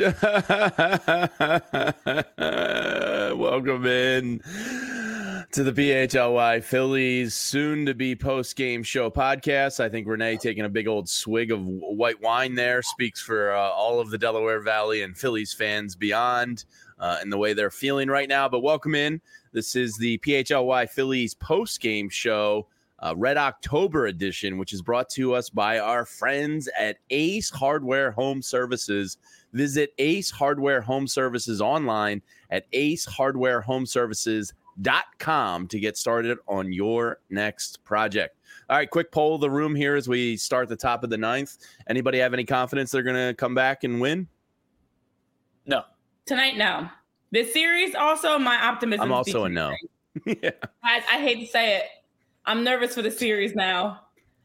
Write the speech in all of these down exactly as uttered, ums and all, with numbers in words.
Welcome in to the P H L Y Phillies soon-to-be post-game show podcast. I think Renee taking a big old swig of white wine there speaks for uh, all of the Delaware Valley and Phillies fans beyond uh, and the way they're feeling right now. But welcome in. This is the P H L Y Phillies post-game show, uh, Red October edition, which is brought to us by our friends at Ace Hardware Home Services. Visit Ace Hardware Home Services online at ace hardware home services dot com to get started on your next project. All right, quick poll of the room here as we start the top of the ninth. Anybody have any confidence they're going to come back and win? No. Tonight, no. This series, also, my optimism. I'm also a no. yeah. I, I hate to say it. I'm nervous for the series now.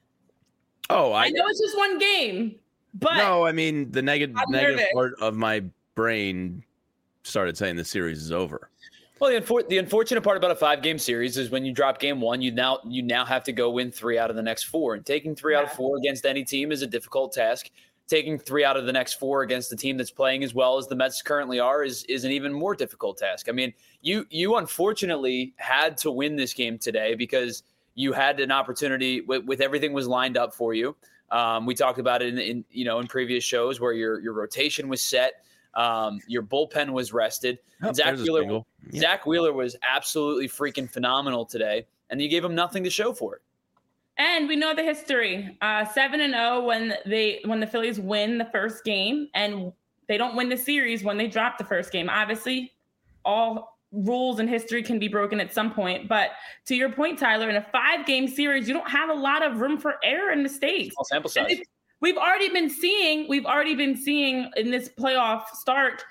Oh, I, I know it's just one game, but no, I mean the negative negative nervous. part of my brain started saying the series is over. Well, the, unfor- the unfortunate part about a five-game series is when you drop game one, you now you now have to go win three out of the next four. And taking three yeah. out of four against any team is a difficult task. Taking three out of the next four against the team that's playing as well as the Mets currently are is, is an even more difficult task. I mean, you you unfortunately had to win this game today because you had an opportunity with, with everything was lined up for you. Um, we talked about it in, in you know in previous shows where your your rotation was set. Um, your bullpen was rested. Oh, and Zach Wheeler, yeah. Zach Wheeler was absolutely freaking phenomenal today, and you gave him nothing to show for it. And we know the history: uh, seven and zero when they when the Phillies win the first game, and they don't win the series when they drop the first game. Obviously, all rules and history can be broken at some point. But to your point, Tyler, in a five-game series, you don't have a lot of room for error and mistakes. Small sample size. We've already been seeing, we've already been seeing in this playoff start,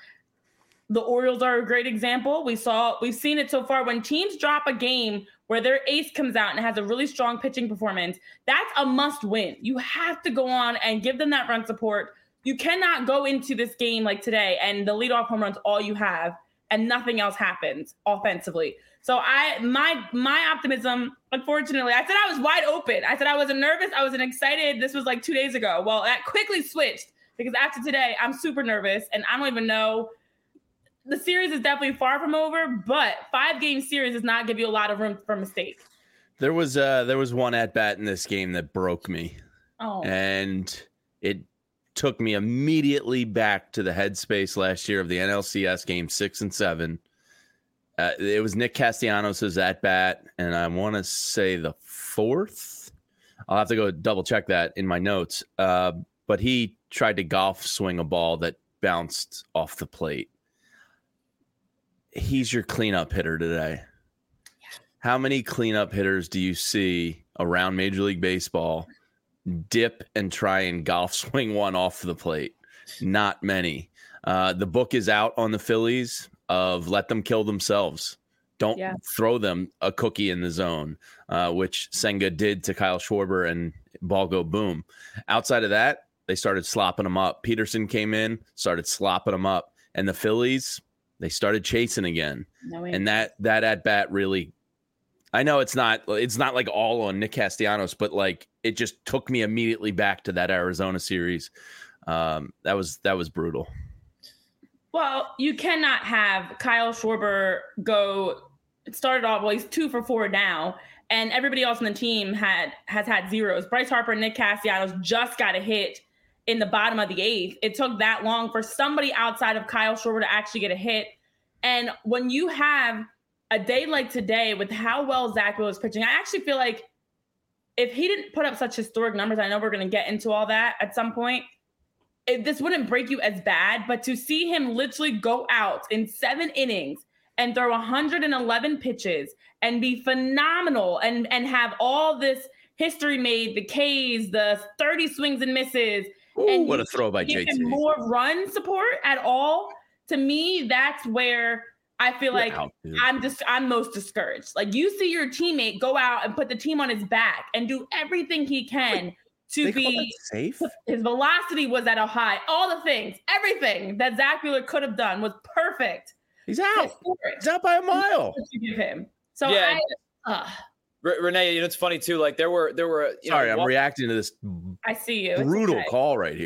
the Orioles are a great example. We saw, we've seen it so far when teams drop a game where their ace comes out and has a really strong pitching performance. That's a must win. You have to go on and give them that run support. You cannot go into this game like today and the leadoff home run's all you have and nothing else happens offensively. So I, my, my optimism, unfortunately, I said I was wide open. I said I wasn't nervous. I wasn't excited. This was like two days ago. Well, that quickly switched because after today, I'm super nervous and I don't even know. The series is definitely far from over, but five game series does not give you a lot of room for mistake. There was uh there was one at bat in this game that broke me. Oh. And it took me immediately back to the headspace last year of the N L C S game six and seven. Uh, it was Nick Castellanos' at bat, and I want to say the fourth. I'll have to go double check that in my notes. Uh, but he tried to golf swing a ball that bounced off the plate. He's your cleanup hitter today. How many cleanup hitters do you see around Major League Baseball dip and try and golf swing one off the plate? Not many. Uh, the book is out on the Phillies of let them kill themselves. Don't yeah. throw them a cookie in the zone, uh, which Senga did to Kyle Schwarber and ball go boom. Outside of that, they started slopping them up. Peterson came in, started slopping them up. And the Phillies, they started chasing again. No and that that at bat really, I know it's not it's not like all on Nick Castellanos, but like it just took me immediately back to that Arizona series. Um, that was that was brutal. Well, you cannot have Kyle Schwarber go it started off, well, he's two for four now, and everybody else on the team had has had zeros. Bryce Harper and Nick Castellanos just got a hit in the bottom of the eighth. It took that long for somebody outside of Kyle Schwarber to actually get a hit. And when you have a day like today with how well Zach Wheeler is pitching, I actually feel like if he didn't put up such historic numbers, I know we're going to get into all that at some point, it, this wouldn't break you as bad. But to see him literally go out in seven innings and throw one hundred eleven pitches and be phenomenal and, and have all this history made, the Ks, the thirty swings and misses, Ooh, and what a throw by J T. More run support at all. To me, that's where I feel like wow, I'm just I'm most discouraged. Like you see your teammate go out and put the team on his back and do everything he can Wait, to be safe. His velocity was at a high. All the things, everything that Zach Wheeler could have done was perfect. He's out. He's out by a mile. You give him. So yeah, I, uh, Renee, you know it's funny too. Like there were there were. You sorry, know, I'm walk- reacting to this. I see you. Brutal okay. call right here.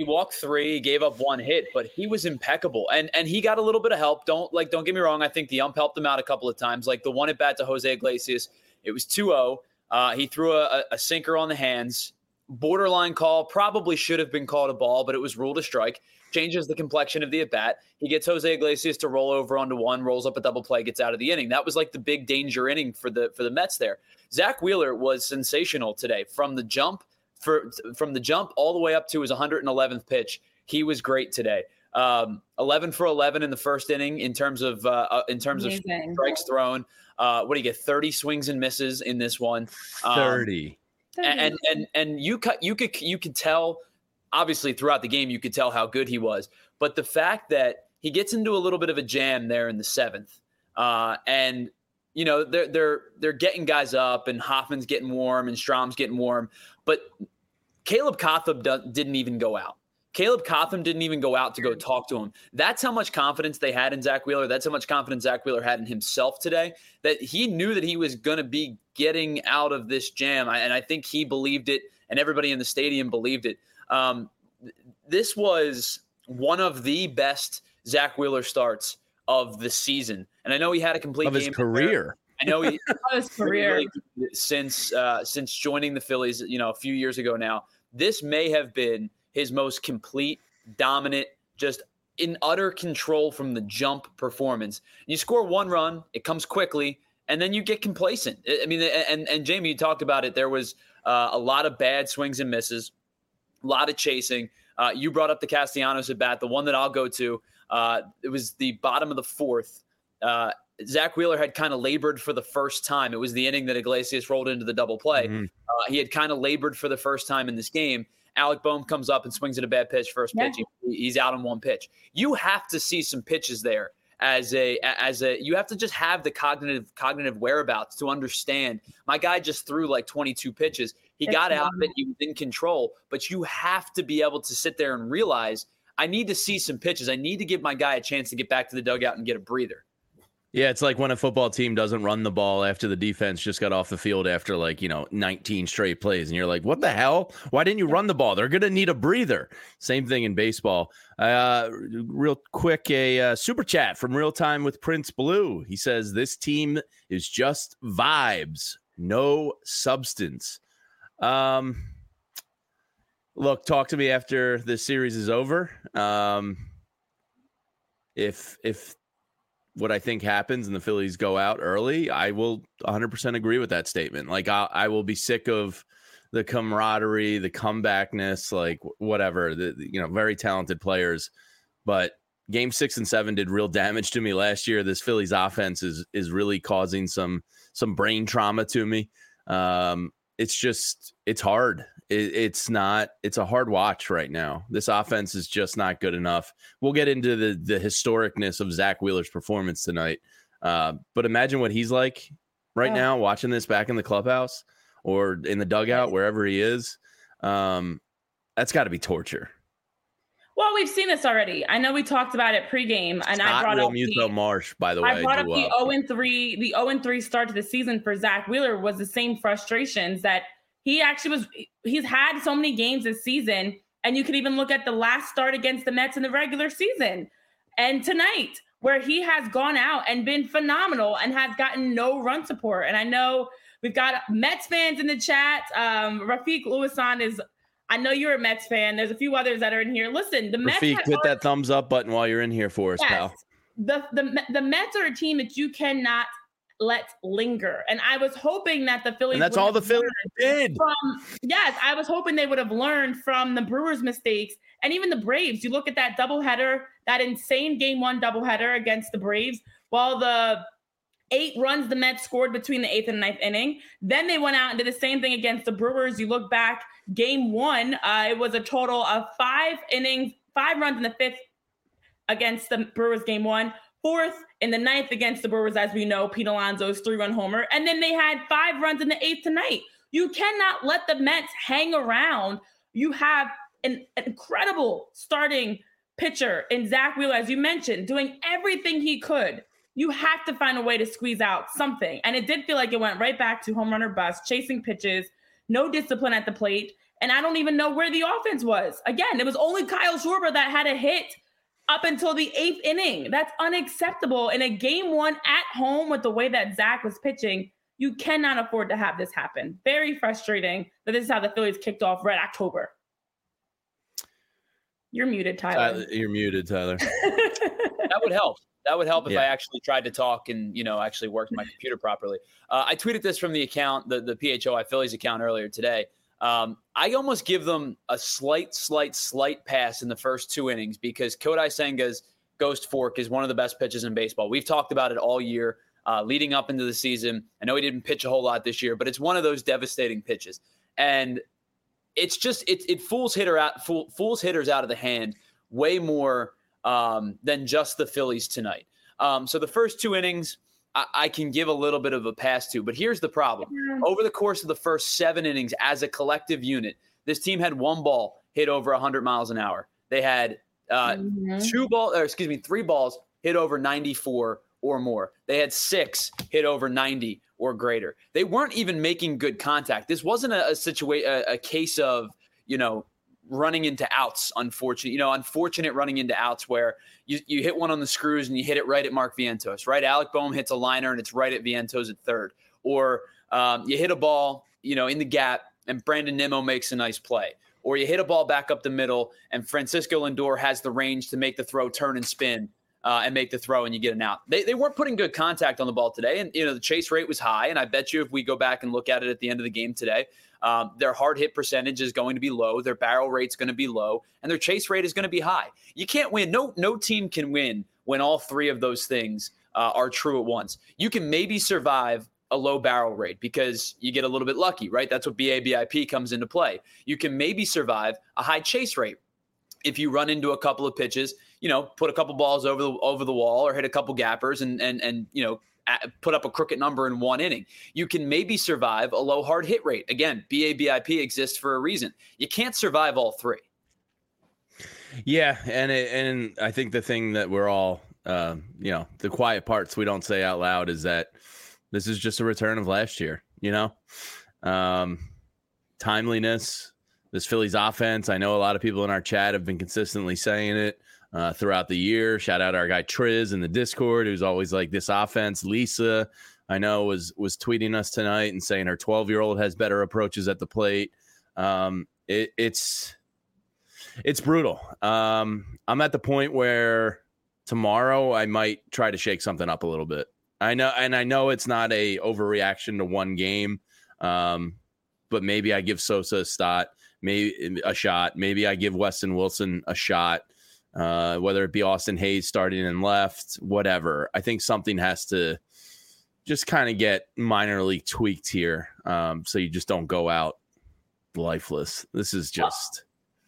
he walked three, gave up one hit, but he was impeccable. And and he got a little bit of help. Don't like, don't get me wrong. I think the ump helped him out a couple of times. Like the one at bat to Jose Iglesias, it was two oh. Uh, he threw a, a sinker on the hands. Borderline call, probably should have been called a ball, but it was ruled a strike. Changes the complexion of the at-bat. He gets Jose Iglesias to roll over onto one, rolls up a double play, gets out of the inning. That was like the big danger inning for the for the Mets there. Zach Wheeler was sensational today from the jump for from the jump all the way up to his one hundred eleventh pitch. He was great today. Um, eleven for eleven in the first inning in terms of uh, in terms Amazing. of strikes thrown. Uh, what do you get? thirty swings and misses in this one. Um, thirty. And and and you cut you could you could tell, obviously throughout the game you could tell how good he was. But the fact that he gets into a little bit of a jam there in the seventh, uh, and you know they're they're they're getting guys up, and Hoffman's getting warm, and Strom's getting warm, but Caleb Cotham do- didn't even go out. Caleb Cotham didn't even go out to go talk to him. That's how much confidence they had in Zach Wheeler. That's how much confidence Zach Wheeler had in himself today, that he knew that he was going to be getting out of this jam. And I think he believed it, and everybody in the stadium believed it. Um, this was one of the best Zach Wheeler starts of the season. And I know he had a complete of his game career. I know he of his career really, since uh, since joining the Phillies, you know, a few years ago now. This may have been his most complete, dominant, just in utter control from the jump performance. You score one run, it comes quickly, and then you get complacent. I mean, and, and Jamie, you talked about it. There was uh, a lot of bad swings and misses, a lot of chasing. Uh, you brought up the Castellanos at bat, the one that I'll go to. Uh, it was the bottom of the fourth. Uh, Zach Wheeler had kind of labored for the first time. It was the inning that Iglesias rolled into the double play. Mm-hmm. Uh, he had kind of labored for the first time in this game. Alec Boehm comes up and swings at a bad pitch, first pitch. Yeah. He, he's out on one pitch. You have to see some pitches there as a as a you have to just have the cognitive cognitive whereabouts to understand. My guy just threw like twenty-two pitches. He That's got out of it. He was in control, but you have to be able to sit there and realize I need to see some pitches. I need to give my guy a chance to get back to the dugout and get a breather. Yeah, it's like when a football team doesn't run the ball after the defense just got off the field after like, you know, nineteen straight plays. And you're like, what the hell? Why didn't you run the ball? They're going to need a breather. Same thing in baseball. Uh, real quick, a uh, super chat from Real Time with Prince Blue. He says, this team is just vibes, no substance. Um, look, talk to me after the series is over. Um, if, if, what I think happens and the Phillies go out early, I will one hundred percent agree with that statement. Like I, I will be sick of the camaraderie, the comebackness, like whatever, the, you know, very talented players, but game six and seven did real damage to me last year. This Phillies offense is, is really causing some, some brain trauma to me. Um, it's just, it's hard. It, it's not, it's a hard watch right now. This offense is just not good enough. We'll get into the the historicness of Zach Wheeler's performance tonight. Uh, but imagine what he's like right oh. now, watching this back in the clubhouse or in the dugout, wherever he is. Um, that's got to be torture. Well, we've seen this already. I know we talked about it pregame, and I brought up the Marsh, by the way. I brought up the oh and three, the oh and three start to the season for Zach Wheeler was the same frustrations that he actually was. He's had so many games this season, and you can even look at the last start against the Mets in the regular season, and tonight where he has gone out and been phenomenal and has gotten no run support. And I know we've got Mets fans in the chat. Um, Rafiq Lewisan is. I know you're a Mets fan. There's a few others that are in here. Listen, the Mets. Rafiq, hit that thumbs up button while you're in here for us, yes. pal. The, the the Mets are a team that you cannot let linger. And I was hoping that the Phillies. And that's all the Phillies did. From, yes, I was hoping they would have learned from the Brewers' mistakes and even the Braves. You look at that doubleheader, that insane game one doubleheader against the Braves, while the eight runs the Mets scored between the eighth and ninth inning. Then they went out and did the same thing against the Brewers. You look back, game one, uh, it was a total of five innings, five runs in the fifth against the Brewers game one, fourth in the ninth against the Brewers, as we know, Pete Alonso's three-run homer. And then they had five runs in the eighth tonight. You cannot let the Mets hang around. You have an, an incredible starting pitcher in Zach Wheeler, as you mentioned, doing everything he could. You have to find a way to squeeze out something. And it did feel like it went right back to home run or bust, chasing pitches, no discipline at the plate. And I don't even know where the offense was. Again, it was only Kyle Schwarber that had a hit up until the eighth inning. That's unacceptable. In a game one at home with the way that Zach was pitching, you cannot afford to have this happen. Very frustrating that this is how the Phillies kicked off Red October. You're muted, Tyler. Tyler you're muted, Tyler. That would help. That would help if yeah. I actually tried to talk and, you know, actually worked my computer properly. Uh, I tweeted this from the account, the, the P H O I Phillies account earlier today. Um, I almost give them a slight, slight, slight pass in the first two innings because Kodai Senga's ghost fork is one of the best pitches in baseball. We've talked about it all year uh, leading up into the season. I know he didn't pitch a whole lot this year, but it's one of those devastating pitches. And it's just, it, it fools hitter out, fool, fools hitters out of the hand way more um, than just the Phillies tonight. Um, so the first two innings, I, I can give a little bit of a pass to, but here's the problem. Over the course of the first seven innings as a collective unit, this team had one ball hit over one hundred miles an hour. They had uh, mm-hmm. two balls, or excuse me, three balls hit over ninety-four or more. They had six hit over ninety or greater. They weren't even making good contact. This wasn't a, a situation, a, a case of, you know, running into outs, unfortunate, you know, unfortunate running into outs where you, you hit one on the screws and you hit it right at Mark Vientos, right? Alec Boehm hits a liner and it's right at Vientos at third. Or um, you hit a ball, you know, in the gap and Brandon Nimmo makes a nice play. Or you hit a ball back up the middle and Francisco Lindor has the range to make the throw, turn and spin uh, and make the throw and you get an out. They they weren't putting good contact on the ball today. And, you know, the chase rate was high. And I bet you if we go back and look at it at the end of the game today, Um, their hard hit percentage is going to be low. Their barrel rate's going to be low, and their chase rate is going to be high. You can't win. No, no team can win when all three of those things uh, are true at once. You can maybe survive a low barrel rate because you get a little bit lucky, right? That's what B A B I P comes into play. You can maybe survive a high chase rate if you run into a couple of pitches, you know, put a couple balls over the over the wall or hit a couple gappers and and and you know. Put up a crooked number in one inning. You can maybe survive a low hard hit rate. Again, B A B I P exists for a reason. You can't survive all three. Yeah, and it, and I think the thing that we're all, uh, you know, the quiet parts we don't say out loud is that this is just a return of last year. You know, um, timeliness. This Phillies offense. I know a lot of people in our chat have been consistently saying it. Uh, throughout the year. Shout out our guy Triz in the Discord, who's always like, this offense. Lisa, I know, was was tweeting us tonight and saying her twelve-year-old has better approaches at the plate. Um, it, it's it's brutal. Um, I'm at the point where tomorrow I might try to shake something up a little bit. I know, and I know it's not a overreaction to one game, um, but maybe I give Sosa a shot, maybe a shot. Maybe I give Weston Wilson a shot. Uh, whether it be Austin Hayes starting in left, whatever. I think something has to just kind of get minorly tweaked here, um, so you just don't go out lifeless. This is just...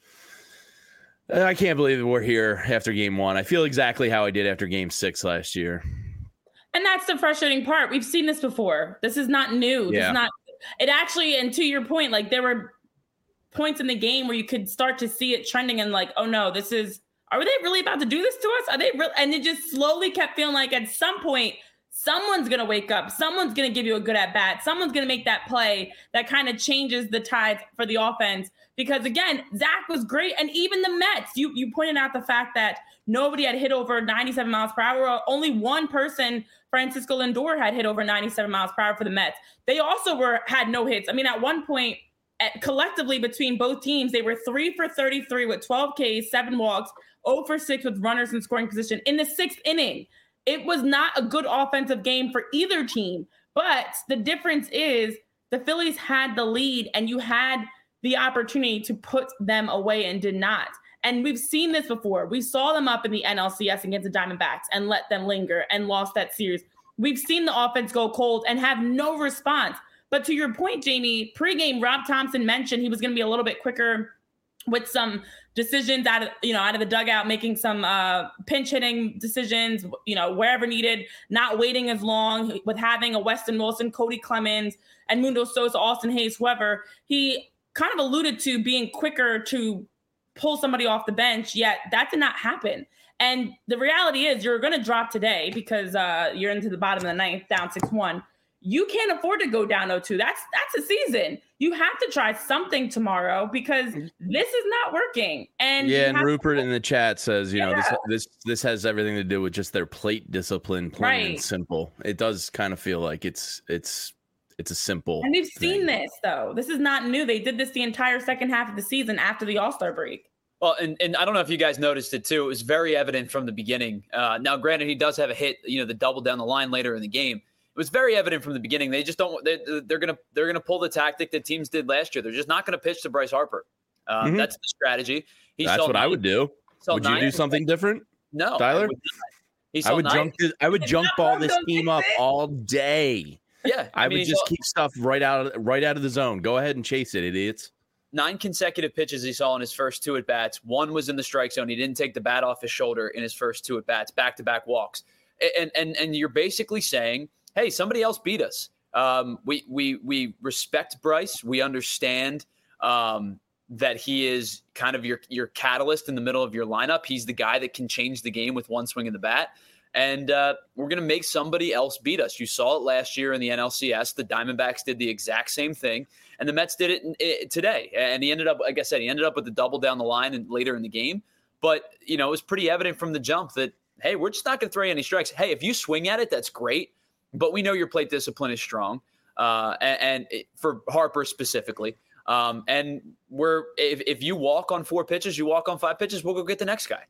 I can't believe we're here after game one. I feel exactly how I did after game six last year. And that's the frustrating part. We've seen this before. This is not new. Yeah. This is not... It actually, and to your point, like there were points in the game where you could start to see it trending and like, oh no, this is... Are they really about to do this to us? Are they real? And it just slowly kept feeling like at some point, someone's going to wake up. Someone's going to give you a good at bat. Someone's going to make that play that kind of changes the tide for the offense. Because again, Zach was great. And even the Mets, you, you pointed out the fact that nobody had hit over ninety-seven miles per hour. Only one person, Francisco Lindor, had hit over ninety-seven miles per hour for the Mets. They also were had no hits. I mean, at one point, at, collectively between both teams, they were three for thirty-three with twelve Ks, seven walks, zero for six with runners in scoring position in the sixth inning. It was not a good offensive game for either team. But the difference is the Phillies had the lead and you had the opportunity to put them away and did not. And we've seen this before. We saw them up in the N L C S against the Diamondbacks and let them linger and lost that series. We've seen the offense go cold and have no response. But to your point, Jamie, pregame, Rob Thompson mentioned he was going to be a little bit quicker with some decisions out of, you know, out of the dugout, making some uh, pinch hitting decisions, you know, wherever needed, not waiting as long with having a Weston Wilson, Cody Clemens, and Mundo Sosa, Austin Hayes, whoever. He kind of alluded to being quicker to pull somebody off the bench, yet that did not happen. And the reality is you're going to drop today because uh, you're into the bottom of the ninth, down six one. you can't afford to go down oh two. That's that's a season. You have to try something tomorrow because this is not working. And yeah, and have- Rupert in the chat says, you yeah. know, this this this has everything to do with just their plate discipline, plain right. and simple. It does kind of feel like it's it's it's a simple. And we've thing. seen this though. This is not new. They did this the entire second half of the season after the All-Star break. Well, and, and I don't know if you guys noticed it too. It was very evident from the beginning. Uh, now, granted, he does have a hit, you know, the double down the line later in the game. It was very evident from the beginning. They just don't. They, they're gonna they're gonna pull the tactic that teams did last year. They're just not gonna pitch to Bryce Harper. Uh, mm-hmm. That's the strategy. He That's what nine, I would do. Would you do something different? No, Tyler. I would, I would junk. This, I would junk ball this team up all day. Yeah, I, I mean, would just saw, keep stuff right out of right out of the zone. Go ahead and chase it, idiots. Nine consecutive pitches he saw in his first two at bats. One was in the strike zone. He didn't take the bat off his shoulder in his first two at bats. Back to back walks. And and and you're basically saying, hey, somebody else beat us. Um, we we we respect Bryce. We understand um, that he is kind of your your catalyst in the middle of your lineup. He's the guy that can change the game with one swing of the bat. And uh, we're going to make somebody else beat us. You saw it last year in the N L C S. The Diamondbacks did the exact same thing, and the Mets did it, in, it today. And he ended up, like I said, he ended up with the double down the line and later in the game. But, you know, it was pretty evident from the jump that, hey, we're just not going to throw you any strikes. Hey, if you swing at it, that's great. But we know your plate discipline is strong, uh, and, and it, for Harper specifically. Um, and we're if, if you walk on four pitches, you walk on five pitches, we'll go get the next guy.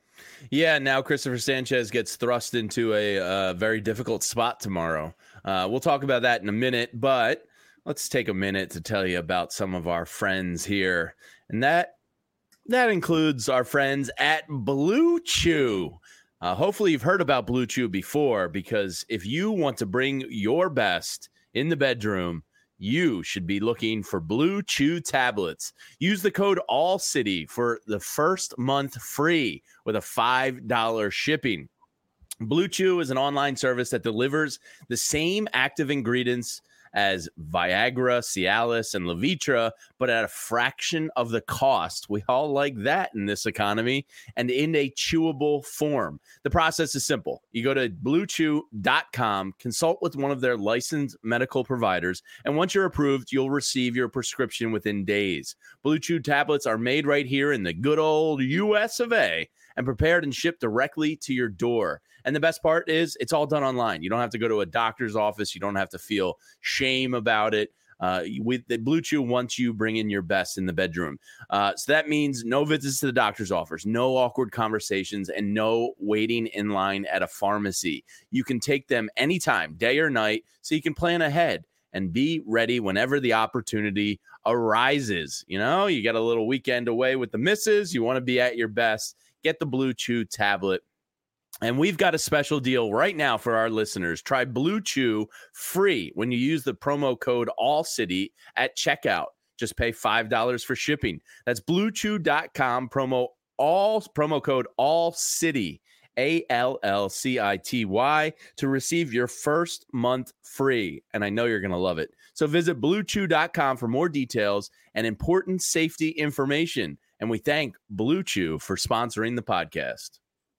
Yeah, now Christopher Sanchez gets thrust into a uh, very difficult spot tomorrow. Uh, we'll talk about that in a minute, but let's take a minute to tell you about some of our friends here. And that that includes our friends at Blue Chew. Uh, hopefully you've heard about Blue Chew before, because if you want to bring your best in the bedroom, you should be looking for Blue Chew tablets. Use the code ALLCITY for the first month free with a five dollars shipping. Blue Chew is an online service that delivers the same active ingredients as Viagra, Cialis, and Levitra, but at a fraction of the cost. We all like that in this economy, and in a chewable form. The process is simple. You go to blue chew dot com, consult with one of their licensed medical providers, and once you're approved, you'll receive your prescription within days. Blue Chew tablets are made right here in the good old U S of A and prepared and shipped directly to your door. And the best part is it's all done online. You don't have to go to a doctor's office. You don't have to feel shame about it. Uh, with the Blue Chew wants you bring in your best in the bedroom. Uh, so that means no visits to the doctor's office, no awkward conversations, and no waiting in line at a pharmacy. You can take them anytime, day or night, so you can plan ahead and be ready whenever the opportunity arises. You know, you got a little weekend away with the missus. You want to be at your best. Get the Blue Chew tablet. And we've got a special deal right now for our listeners. Try Blue Chew free when you use the promo code ALLCITY at checkout. Just pay five dollars for shipping. That's blue chew dot com, promo all promo code ALLCITY, A L L C I T Y, to receive your first month free. And I know you're going to love it. So visit blue chew dot com for more details and important safety information. And we thank Blue Chew for sponsoring the podcast.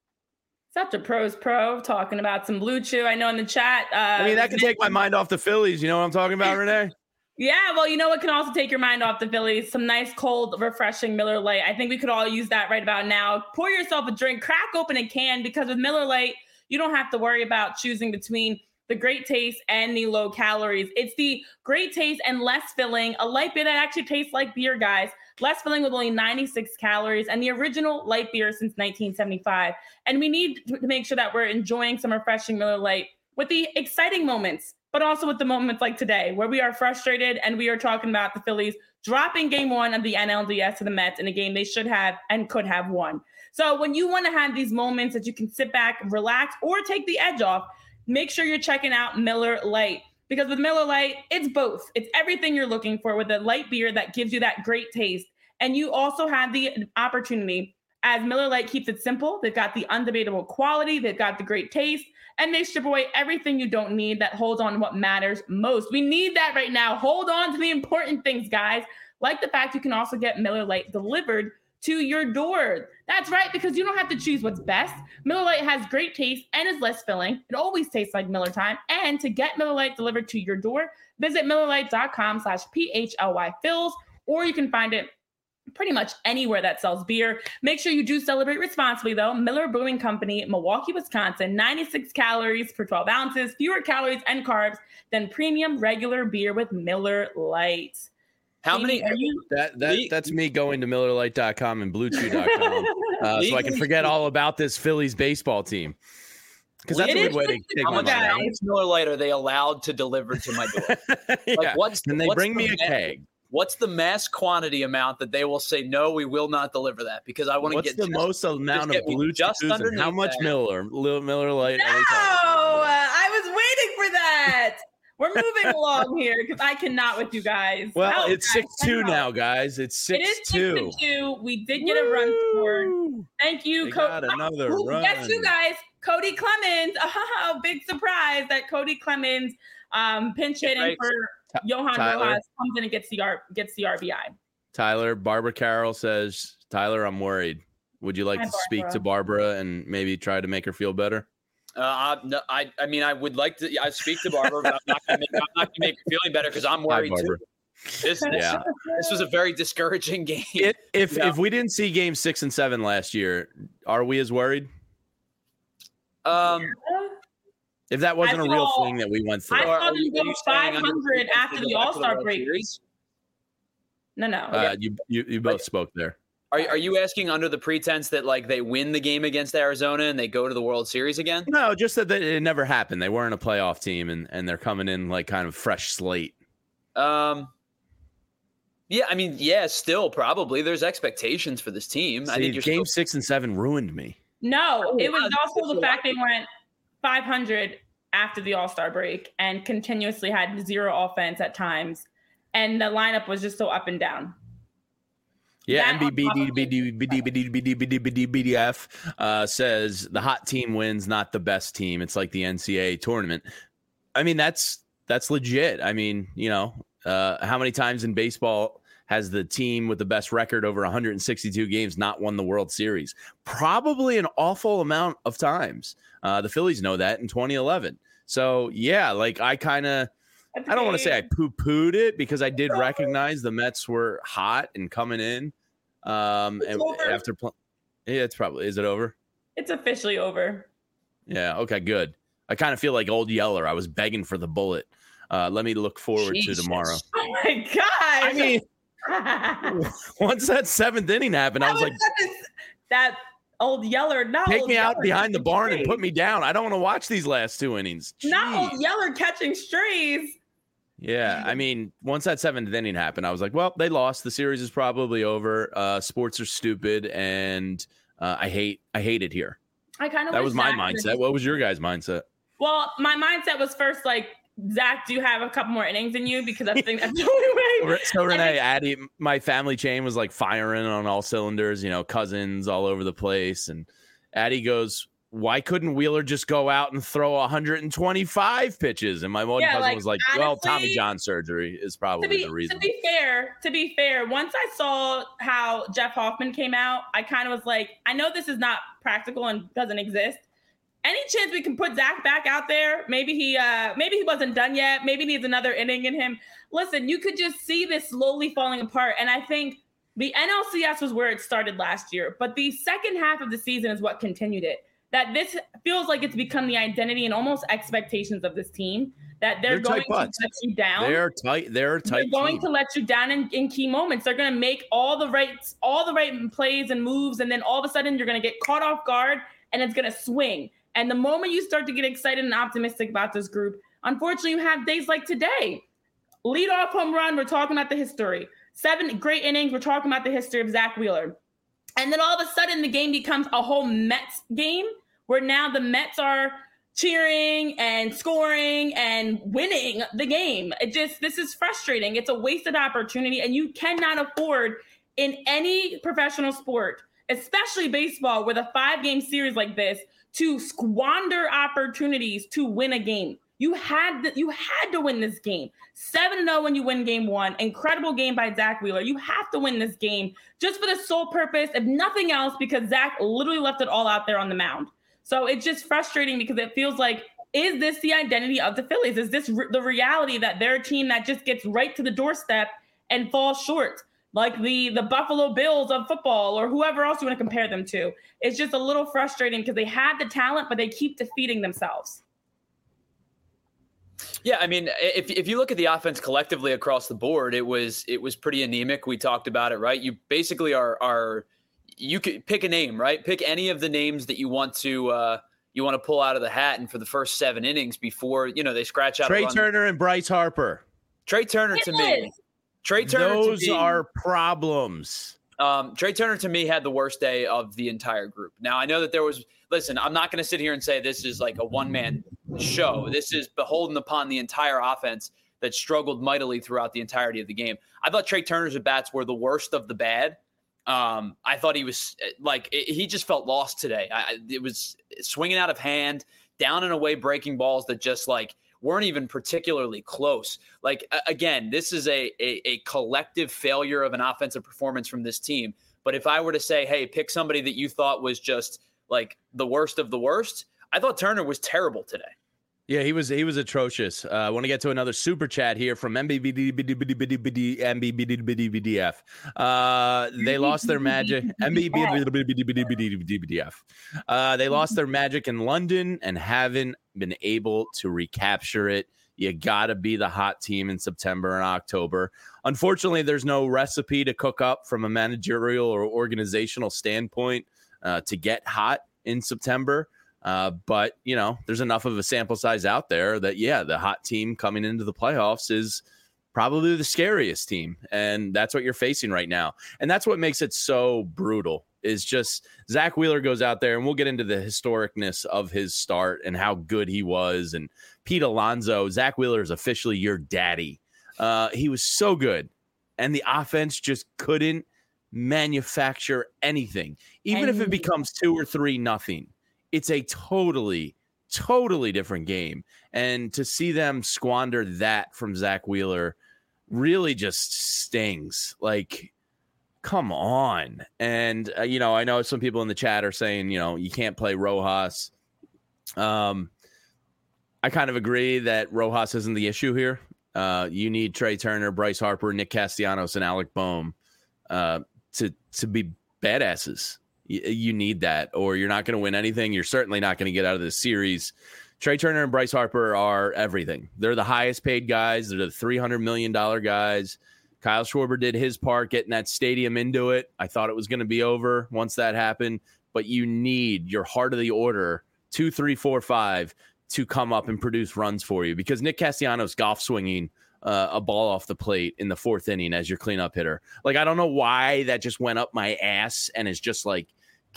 Such a pros pro talking about some Blue Chew. I know in the chat. Uh, I mean, that can take my mind off the Phillies. You know what I'm talking about, Renee? Yeah, well, you know what can also take your mind off the Phillies? Some nice, cold, refreshing Miller Lite. I think we could all use that right about now. Pour yourself a drink, crack open a can, because with Miller Lite, you don't have to worry about choosing between the great taste and the low calories. It's the great taste and less filling, a light beer that actually tastes like beer, guys. Less filling with only ninety-six calories, and the original light beer since nineteen seventy-five. And we need to make sure that we're enjoying some refreshing Miller Lite with the exciting moments, but also with the moments like today, where we are frustrated and we are talking about the Phillies dropping game one of the N L D S to the Mets in a game they should have and could have won. So when you want to have these moments that you can sit back, relax, or take the edge off, make sure you're checking out Miller Lite. Because with Miller Lite, it's both. It's everything you're looking for with a light beer that gives you that great taste. And you also have the opportunity, as Miller Lite keeps it simple. They've got the undebatable quality. They've got the great taste. And they strip away everything you don't need that holds on to what matters most. We need that right now. Hold on to the important things, guys. Like the fact you can also get Miller Lite delivered to your door. That's right, because you don't have to choose what's best. Miller Lite has great taste and is less filling. It always tastes like Miller time. And to get Miller Lite delivered to your door, visit MillerLite.com slash PHLY Phils, or you can find it pretty much anywhere that sells beer. Make sure you do celebrate responsibly, though. Miller Brewing Company, Milwaukee, Wisconsin, ninety-six calories per twelve ounces, fewer calories and carbs than premium regular beer with Miller Lite. How many are you? That that that's me going to Miller Lite dot com and Blue Chew dot com uh, so I can forget all about this Phillies baseball team. Because that's It a is good way to take How my much, money. how much Miller Lite are they allowed to deliver to my door? Yeah. Like, what's and they what's bring me the a ma- keg. What's the mass quantity amount that they will say, no, we will not deliver that because I want to What's get the just, most amount just of get me Blue just Chews and how underneath much that. Miller? Little Miller Lite. No, every time. uh, I was waiting for that. We're moving along here because I cannot with you guys. Well, Help, it's guys, six two help. now, guys. It's It six is two. six to two. We did get a run scored. Woo! Thank you, They Cody. got another Ooh, run. Guess you guys, Cody Clemens. Oh, big surprise that Cody Clemens, um, pinch hitting Right. for Ty- Johan Tyler. Rojas, comes in and gets the R gets the R B I. Tyler, Barbara Carroll says, Tyler, I'm worried. Would you like Hi, to speak Barbara. to Barbara and maybe try to make her feel better? Uh, I, no, I, I mean, I would like to. I speak to Barbara, but I'm not going to make, make her feeling better because I'm Hi, worried Barbara. too. This, this, Yeah. this was a very discouraging game. It, if Yeah. if we didn't see game six and seven last year, are we as worried? Um, If that wasn't I a real saw- thing that we went through, I are- saw are them you- go are you saying under- five hundred after go the back to the All-Star World break. Series? No, no. uh, you, you you both spoke there. Are, are you asking under the pretense that like they win the game against Arizona and they go to the World Series again? No, just that it never happened. They weren't a playoff team, and, and they're coming in like kind of fresh slate. Um, yeah, I mean, yeah, still probably there's expectations for this team. I See, think you're game still, six and seven ruined me. No, Oh, it was wow, also that's the a fact they went five hundred after the All-Star break and continuously had zero offense at times. And the lineup was just so up and down. Yeah, That M B B on D top B of D B D B D B D B D B D B D F uh, says the hot team wins, not the best team. It's like the N C double A tournament. I mean, that's that's legit. I mean, you know, uh, how many times in baseball has the team with the best record over one hundred sixty-two games not won the World Series? Probably an awful amount of times. Uh, the Phillies know that in twenty eleven. So, yeah, like I kind of I don't want to say I poo-pooed it because I did recognize the Mets were hot and coming in. Um, It's and over. after pl- yeah, it's probably is it over? It's officially over. Yeah. Okay. Good. I kind of feel like old Yeller. I was begging for the bullet. Uh, let me look forward Jesus. to tomorrow. Oh my god! I mean, once that seventh inning happened, I was like, that old Yeller. Not take old me out Yeller behind the catching barn and strays. put me down. I don't want to watch these last two innings. Not Jeez. old Yeller catching strays. Yeah, I mean, once that seventh inning happened, I was like, well, they lost. The series is probably over. Uh, sports are stupid, and uh, I hate, I hate it here. I kind of That was my mindset. What was your guys' mindset? Well, my mindset was first like, Zach, do you have a couple more innings in you? Because I think that's the only way. So Renee, And Addie, my family chain was like firing on all cylinders. You know, cousins all over the place, and Addie goes, "Why couldn't Wheeler just go out and throw one hundred twenty-five pitches?" And my one Yeah, cousin like, was like, "Well, honestly, Tommy John surgery is probably to be, the reason." to be fair, to be fair, once I saw how Jeff Hoffman came out, I kind of was like, I know this is not practical and doesn't exist. Any chance we can put Zach back out there? Maybe he, uh, maybe he wasn't done yet. Maybe needs another inning in him. Listen, you could just see this slowly falling apart, and I think the N L C S was where it started last year, but the second half of the season is what continued it. That this feels like it's become the identity and almost expectations of this team. That they're, They're going tight to butts. let you down. They're tight. They're a tight. They're going team. to let you down in, in key moments. They're going to make all the right, all the right plays and moves, and then all of a sudden you're going to get caught off guard, and it's going to swing. And the moment you start to get excited and optimistic about this group, unfortunately, you have days like today. Lead off home run. We're talking about the history. Seven great innings. We're talking about the history of Zach Wheeler. And then all of a sudden, the game becomes a whole Mets game where now the Mets are cheering and scoring and winning the game. It just, this is frustrating. It's a wasted opportunity, and you cannot afford in any professional sport, especially baseball, with a five-game series like this, to squander opportunities to win a game. You had to, you had to win this game. seven to oh when you win game one. Incredible game by Zach Wheeler. You have to win this game just for the sole purpose, if nothing else, because Zach literally left it all out there on the mound. So it's just frustrating because it feels like, is this the identity of the Phillies? Is this re- the reality that they're a team that just gets right to the doorstep and falls short? Like the, the Buffalo Bills of football or whoever else you want to compare them to. It's just a little frustrating because they have the talent, but they keep defeating themselves. Yeah, I mean, if if you look at the offense collectively across the board, it was it was pretty anemic. We talked about it, right? You basically are are you could pick a name, right? Pick any of the names that you want to uh, you want to pull out of the hat, and for the first seven innings before you know they scratch out. Trey Turner and Bryce Harper. Trey Turner to me. Trey Turner. Those to me, are problems. Um, Trey Turner to me had the worst day of the entire group. Now I know that there was. Listen, I'm not going to sit here and say this is like a one-man show. This is beholden upon the entire offense that struggled mightily throughout the entirety of the game. I thought Trey Turner's at-bats were the worst of the bad. Um, I thought he was like it, he just felt lost today. I, it was swinging out of hand, down and away breaking balls that just like weren't even particularly close. Like, again, this is a, a, a collective failure of an offensive performance from this team. But if I were to say, hey, pick somebody that you thought was just like the worst of the worst, I thought Turner was terrible today. Yeah, he was he was atrocious. Uh, I want to get to another super chat here from M B B D F. Uh, they lost their magic. M B B F. Uh, they lost their magic in London and haven't been able to recapture it. You got to be the hot team in September and October. Unfortunately, there's no recipe to cook up from a managerial or organizational standpoint uh, to get hot in September. Uh, but, you know, there's enough of a sample size out there that, yeah, the hot team coming into the playoffs is probably the scariest team. And that's what you're facing right now. And that's what makes it so brutal is just Zach Wheeler goes out there, and we'll get into the historicness of his start and how good he was. And Pete Alonso, Zach Wheeler is officially your daddy. Uh, he was so good. And the offense just couldn't manufacture anything, even and- if it becomes two or three nothing. It's a totally, totally different game. And to see them squander that from Zach Wheeler really just stings. Like, come on. And, uh, you know, I know some people in the chat are saying, you know, you can't play Rojas. Um, I kind of agree that Rojas isn't the issue here. Uh, you need Trey Turner, Bryce Harper, Nick Castellanos, and Alec Boehm uh, to, to be badasses. You need that, or you're not going to win anything. You're certainly not going to get out of this series. Trey Turner and Bryce Harper are everything. They're the highest paid guys. They're the three hundred million dollars guys. Kyle Schwarber did his part getting that stadium into it. I thought it was going to be over once that happened, but you need your heart of the order, two, three, four, five, to come up and produce runs for you, because Nick Castellanos golf swinging Uh, a ball off the plate in the fourth inning as your cleanup hitter. Like, I don't know why that just went up my ass and is just like,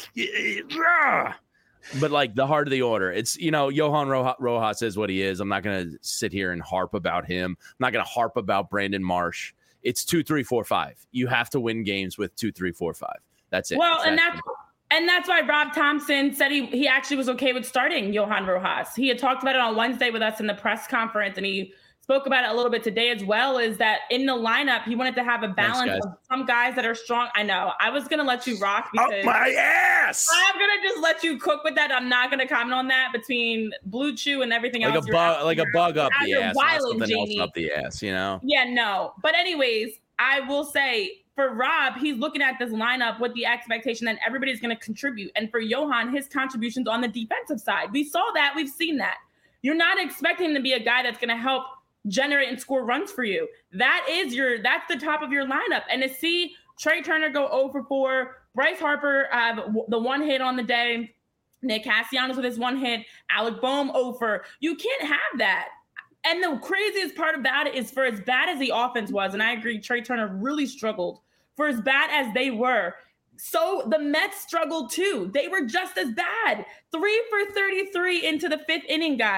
but like the heart of the order. It's, you know, Johan Rojas is what he is. I'm not going to sit here and harp about him. I'm not going to harp about Brandon Marsh. It's two, three, four, five. You have to win games with two, three, four, five. That's it. Well, exactly. and that's and that's why Rob Thompson said he he actually was okay with starting Johan Rojas. He had talked about it on Wednesday with us in the press conference, and he spoke about it a little bit today as well, is that in the lineup, he wanted to have a balance Thanks, of some guys that are strong. I know. I was going to let you rock because up my ass. I'm going to just let you cook with that. I'm not going to comment on that between Blue Chew and everything like else. A bug, like a bug up the ass. Wilding, something Jamie. else up the ass, you know? Yeah, no. But anyways, I will say for Rob, he's looking at this lineup with the expectation that everybody's going to contribute. And for Johan, his contributions on the defensive side. We saw that. We've seen that. You're not expecting him to be a guy that's going to help generate and score runs for you. That is your, that's the top of your lineup. And to see Trey Turner go oh for four, Bryce Harper have uh, the one hit on the day, Nick Castellanos with his one hit, Alec Boehm over. You can't have that. And the craziest part about it is, for as bad as the offense was, and I agree, Trey Turner really struggled, for as bad as they were, so the Mets struggled too. They were just as bad. Three for thirty-three into the fifth inning, guys.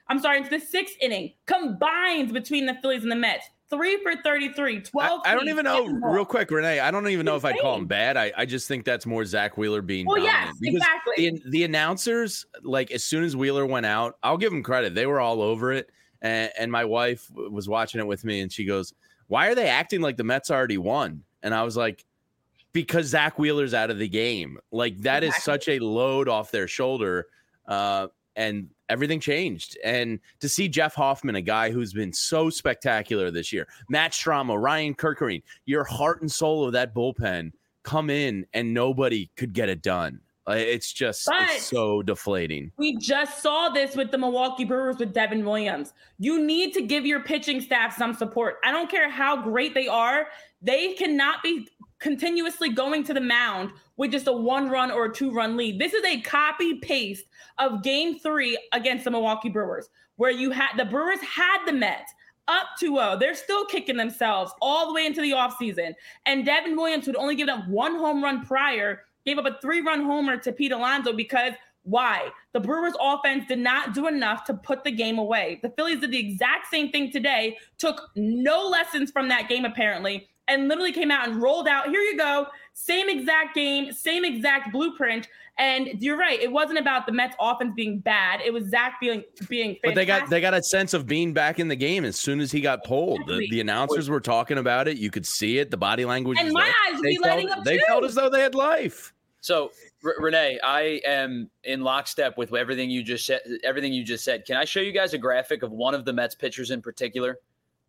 I'm sorry, into the sixth inning, combined between the Phillies and the Mets. Three for thirty-three, twelve. I, I don't even know, real quick, Renee, I don't even know if I'd call him insane. bad. I, I just think that's more Zach Wheeler being Well, dominant. yes, Because exactly. The, the announcers, like, as soon as Wheeler went out, I'll give them credit. They were all over it. And, and my wife was watching it with me, and she goes, why are they acting like the Mets already won? And I was like, because Zach Wheeler's out of the game. Like, that exactly. is such a load off their shoulder. Uh, and everything changed. And to see Jeff Hoffman, a guy who's been so spectacular this year, Matt Stramo, Ryan Kirkering, your heart and soul of that bullpen come in and nobody could get it done. It's just it's so deflating. We just saw this with the Milwaukee Brewers with Devin Williams. You need to give your pitching staff some support. I don't care how great they are. They cannot be continuously going to the mound with just a one run or a two run lead. This is a copy paste of game three against the Milwaukee Brewers, where you had the Brewers had the Mets up two oh. They're still kicking themselves all the way into the offseason. And Devin Williams, who'd only given up one home run prior, gave up a three run homer to Pete Alonso because why? The Brewers offense did not do enough to put the game away. The Phillies did the exact same thing today, took no lessons from that game apparently, and literally came out and rolled out, here you go, same exact game, same exact blueprint. And you're right, it wasn't about the Mets offense being bad. It was Zach being being fantastic. But they got they got a sense of being back in the game as soon as he got pulled. Exactly. The, the announcers were talking about it. You could see it, the body language. And my there. eyes would they be felt, lighting up They too. felt as though they had life. So, R- Renee, I am in lockstep with everything you just said. Everything you just said. Can I show you guys a graphic of one of the Mets pitchers in particular?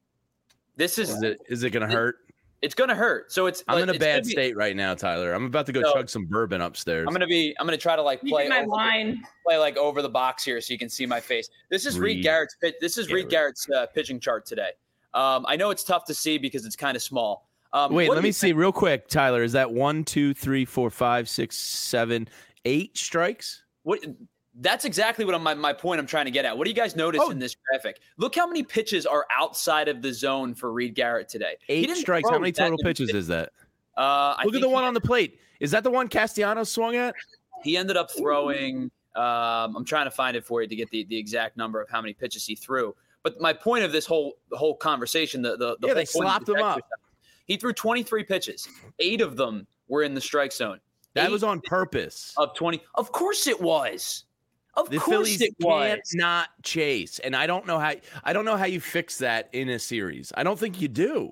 This is. Is it, is it going to hurt? It's going to hurt. So it's. I'm like, in a it's bad be, state right now, Tyler. I'm about to go so, chug some bourbon upstairs. I'm going to be. I'm going to try to like play my over wine. The, play like over the box here so you can see my face. This is Reed, Reed Garrett's pitch. This is Garrett. Reed Garrett's uh, pitching chart today. Um, I know it's tough to see because it's kind of small. Um, Wait, let me think? see real quick, Tyler. Is that one, two, three, four, five, six, seven, eight strikes? What? That's exactly what I'm, my, my point I'm trying to get at. What do you guys notice oh. in this graphic? Look how many pitches are outside of the zone for Reed Garrett today. Eight strikes. How many total pitches is that? Uh, I Look at the one on the plate. Is that the one Castellanos swung at? He ended up throwing um, – I'm trying to find it for you to get the, the exact number of how many pitches he threw. But my point of this whole the whole conversation, the, the, the yeah, whole they slopped him up. He threw twenty-three pitches. Eight of them were in the strike zone. That Eight was on purpose. Of twenty. Of course it was. Of the course Phillies it was. can't not chase, and I don't know how. I don't know how you fix that in a series. I don't think you do.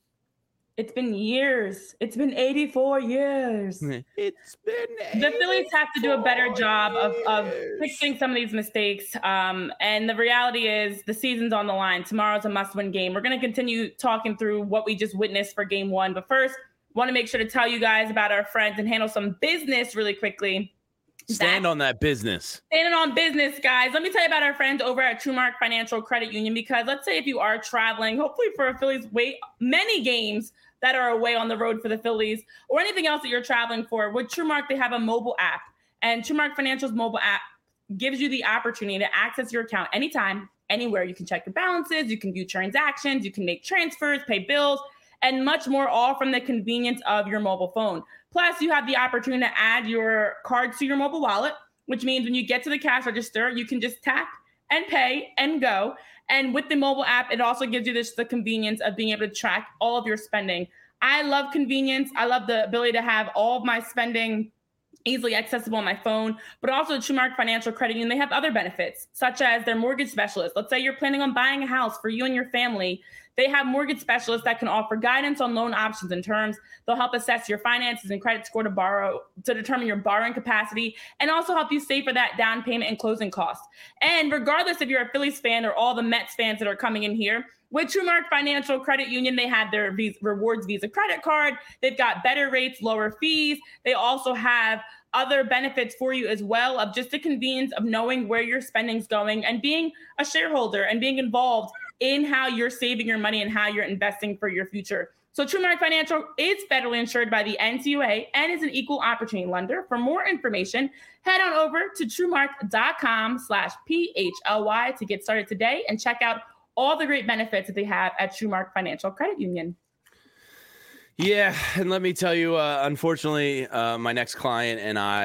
It's been years. It's been eighty-four years. It's been. The Phillies have to do a better job of, of fixing some of these mistakes. Um, and the reality is, the season's on the line. Tomorrow's a must-win game. We're going to continue talking through what we just witnessed for Game One, but first, want to make sure to tell you guys about our friends and handle some business really quickly. Stand that, on that business. Standing on business, guys. Let me tell you about our friends over at TrueMark Financial Credit Union, because let's say if you are traveling, hopefully for a Phillies wait many games that are away on the road for the Phillies, or anything else that you're traveling for, with TrueMark, they have a mobile app. And TrueMark Financial's mobile app gives you the opportunity to access your account anytime, anywhere. You can check your balances, you can view transactions, you can make transfers, pay bills, and much more, all from the convenience of your mobile phone. Plus, you have the opportunity to add your cards to your mobile wallet, which means when you get to the cash register, you can just tap and pay and go. And with the mobile app, it also gives you this the convenience of being able to track all of your spending. I love convenience. I love the ability to have all of my spending easily accessible on my phone, but also TrueMark Financial Credit Union, they have other benefits, such as their mortgage specialist. Let's say you're planning on buying a house for you and your family. They have mortgage specialists that can offer guidance on loan options and terms. They'll help assess your finances and credit score to borrow, to determine your borrowing capacity, and also help you save for that down payment and closing costs. And regardless if you're a Phillies fan or all the Mets fans that are coming in here, with TrueMark Financial Credit Union, they have their Visa, Rewards Visa credit card. They've got better rates, lower fees. They also have other benefits for you as well, of just the convenience of knowing where your spending's going and being a shareholder and being involved in how you're saving your money and how you're investing for your future. So TrueMark Financial is federally insured by the N C U A and is an equal opportunity lender. For more information, head on over to TrueMark.com slash P-H-L-Y to get started today and check out all the great benefits that they have at TrueMark Financial Credit Union. Yeah, and let me tell you, uh, unfortunately, uh, my next client and I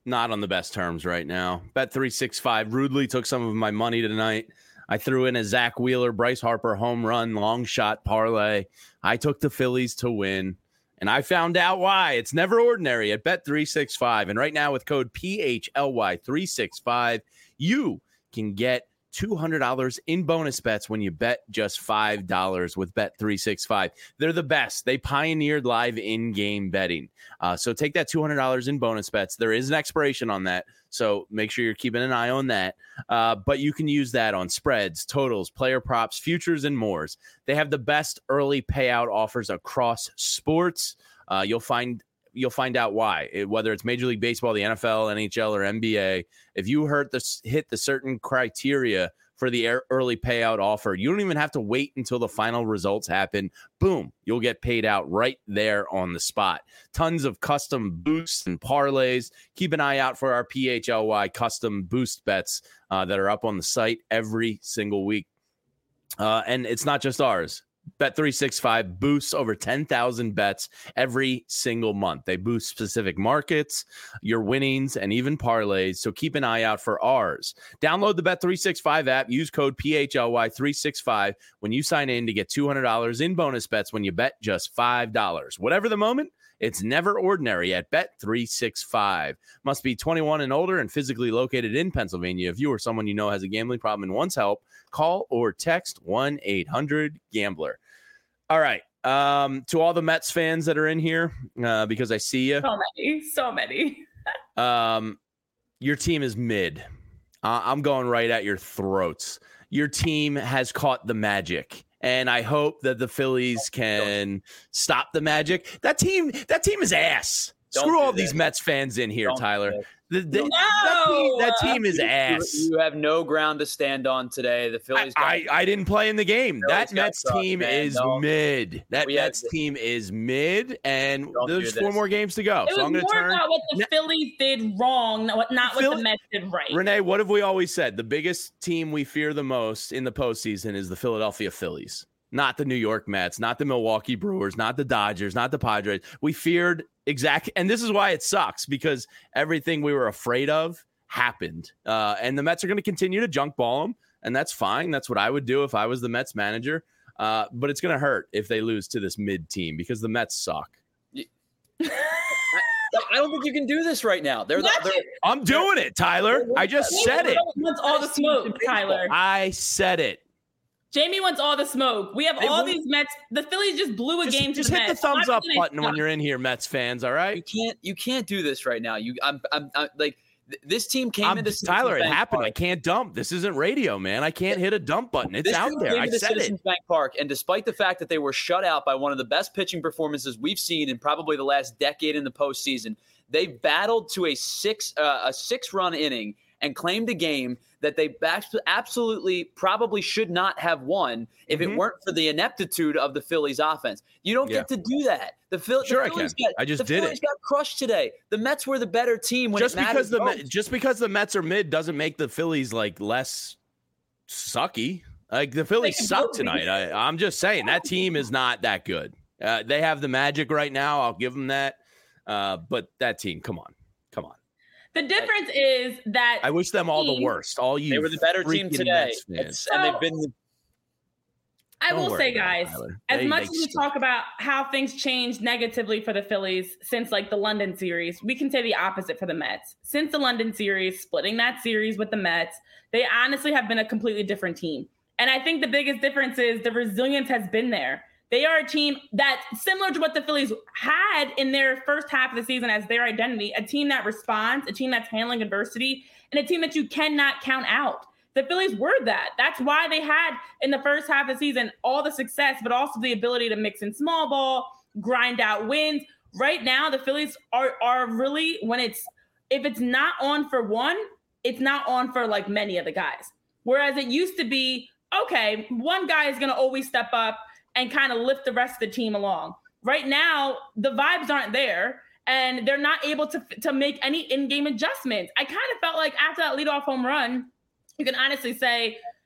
not on the best terms right now. Bet three sixty-five rudely took some of my money tonight. I threw in a Zach Wheeler, Bryce Harper home run, long shot parlay. I took the Phillies to win, and I found out why. It's never ordinary at Bet three sixty-five. And right now with code P H L Y three sixty-five, you can get two hundred dollars in bonus bets when you bet just five dollars with Bet three sixty-five. They're the best. They pioneered live in-game betting. Uh, so take that two hundred dollars in bonus bets. There is an expiration on that, so make sure you're keeping an eye on that. Uh, but you can use that on spreads, totals, player props, futures, and more. They have the best early payout offers across sports. Uh, you'll find You'll find out why, it, whether it's Major League Baseball, the N F L, N H L, or N B A. If you hurt the, hit the certain criteria for the early payout offer, you don't even have to wait until the final results happen. Boom, you'll get paid out right there on the spot. Tons of custom boosts and parlays. Keep an eye out for our P H L Y custom boost bets uh, that are up on the site every single week. Uh, and it's not just ours. Bet three sixty-five boosts over ten thousand bets every single month. They boost specific markets, your winnings, and even parlays. So keep an eye out for ours. Download the Bet three sixty-five app. Use code P H L Y three sixty-five when you sign in to get two hundred dollars in bonus bets when you bet just five dollars. Whatever the moment, it's never ordinary at Bet three sixty-five. Must be twenty-one and older and physically located in Pennsylvania. If you or someone you know has a gambling problem and wants help, call or text one eight hundred gambler. All right. Um, to all the Mets fans that are in here, uh, because I see you. So many. So many. um, your team is mid. Uh, I'm going right at your throats. Your team has caught the magic. And I hope that the Phillies can stop the magic. That team, that team is ass. Don't Screw all that. These Mets fans in here, Don't Tyler. The, the, no! that, team, that team is ass. You, you have no ground to stand on today. The Phillies. I, got, I, I didn't play in the game. That Mets sucked, team man. is no. mid. That we Mets have, team is mid, and Don't there's four more games to go. It so was I'm going to more turn. about what the now, Phillies did wrong, not what, not Philly, what the Mets did right. Renee, what have we always said? The biggest team we fear the most in the postseason is the Philadelphia Phillies. Not the New York Mets, not the Milwaukee Brewers, not the Dodgers, not the Padres. We feared exactly, and this is why it sucks, because everything we were afraid of happened. Uh, and the Mets are going to continue to junk ball them, and that's fine. That's what I would do if I was the Mets manager. Uh, but it's going to hurt if they lose to this mid team because the Mets suck. I don't think you can do this right now. They're, the, they're I'm doing it, Tyler. I just said it. Wants all the smoke, Tyler. I said it. Jamie wants all the smoke. We have they all won't. these Mets. The Phillies just blew a just, game to just the hit Mets. the thumbs Why up button when you're in here, Mets fans. All right. You can't. You can't do this right now. You. I'm. I'm. I'm like th- this team came I'm, into Tyler. It Bank happened. Park. I can't dump. This isn't radio, man. I can't hit a dump button. It's this out team there. Came I into said Citizens it. Bank Park, and despite the fact that they were shut out by one of the best pitching performances we've seen in probably the last decade in the postseason, they battled to a six uh, a six run inning and claimed a game that they absolutely probably should not have won if mm-hmm. it weren't for the ineptitude of the Phillies offense. You don't yeah. get to do that. The, Phil- sure the Phillies I can. Got, I just the did Phillies it. got crushed today. The Mets were the better team when just it because the most. just because the Mets are mid doesn't make the Phillies like less sucky. Like the Phillies suck tonight. I, I'm just saying that team is not that good. Uh, they have the magic right now. I'll give them that. Uh, but that team, come on, come on. The difference is that I wish them all the worst. All you, they were the better team today, so, and they've been. The- I will say, guys, as they, much they as we talk about how things changed negatively for the Phillies since like the London series, we can say the opposite for the Mets. Since the London series, splitting that series with the Mets, they honestly have been a completely different team. And I think the biggest difference is the resilience has been there. They are a team that, similar to what the Phillies had in their first half of the season as their identity, a team that responds, a team that's handling adversity, and a team that you cannot count out. The Phillies were that. That's why they had, in the first half of the season, all the success, but also the ability to mix in small ball, grind out wins. Right now, the Phillies are are really, when it's, if it's not on for one, it's not on for like many of the guys. Whereas it used to be, okay, one guy is going to always step up and kind of lift the rest of the team along. Right now, the vibes aren't there, and they're not able to to make any in-game adjustments. I kind of felt like after that leadoff home run, you can honestly say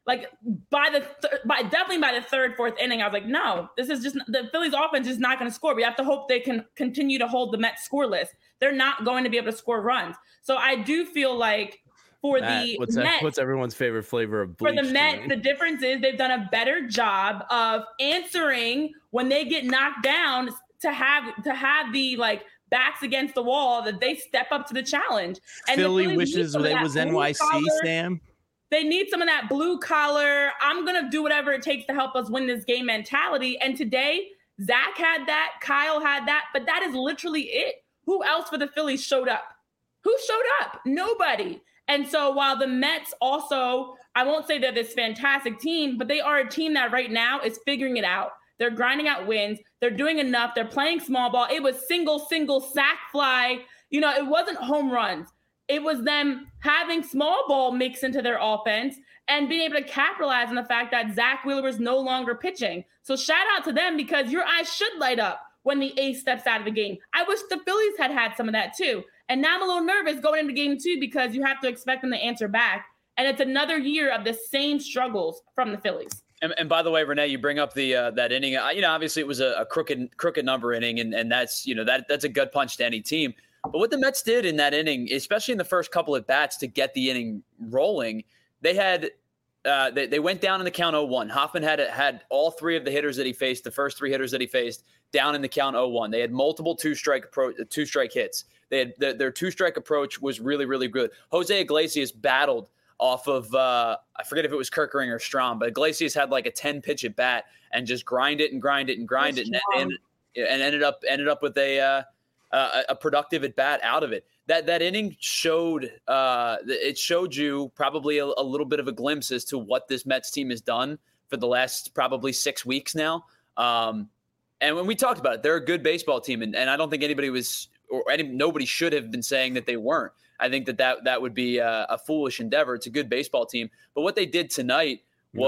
Like by the th- by definitely by the third, fourth inning, I was like, no, this is just the Phillies offense is not going to score. We have to hope they can continue to hold the Mets scoreless. They're not going to be able to score runs. So I do feel like for Matt, the what's, Mets, that, what's everyone's favorite flavor of bleach? For the Mets, tonight? the difference is they've done a better job of answering when they get knocked down to have to have the like backs against the wall that they step up to the challenge. And Philly the wishes it was N Y C, collar, Sam. They need some of that blue collar, I'm going to do whatever it takes to help us win this game mentality. And today, Zach had that, Kyle had that, but that is literally it. Who else for the Phillies showed up? Who showed up? Nobody. And so while the Mets also, I won't say they're this fantastic team, but they are a team that right now is figuring it out. They're grinding out wins. They're doing enough. They're playing small ball. It was single, single, sack fly. You know, it wasn't home runs. It was them having small ball mix into their offense and being able to capitalize on the fact that Zach Wheeler was no longer pitching. So shout out to them because your eyes should light up when the ace steps out of the game. I wish the Phillies had had some of that too. And now I'm a little nervous going into game two because you have to expect them to answer back. And it's another year of the same struggles from the Phillies. And, and by the way, Renee, you bring up the uh, that inning. Uh, you know, obviously it was a, a crooked crooked number inning, and and that's you know that that's a gut punch to any team. But what the Mets did in that inning, especially in the first couple of bats to get the inning rolling, they had uh, they they went down in the count oh one. Hoffman had had all three of the hitters that he faced, the first three hitters that he faced, down in the count oh one. They had multiple two strike approach, two strike hits. They had their, their two strike approach was really really good. Jose Iglesias battled off of, uh, I forget if it was Kerkering or Strahm, but Iglesias had like a ten pitch at bat and just grind it and grind it and grind it and, and, and ended up ended up with a uh, a, a productive at bat out of it. That that inning showed uh, it showed you probably a, a little bit of a glimpse as to what this Mets team has done for the last probably six weeks now. Um, and when we talked about it, they're a good baseball team, and, and I don't think anybody was or any nobody should have been saying that they weren't. I think that that, that would be a, a foolish endeavor. It's a good baseball team. But what they did tonight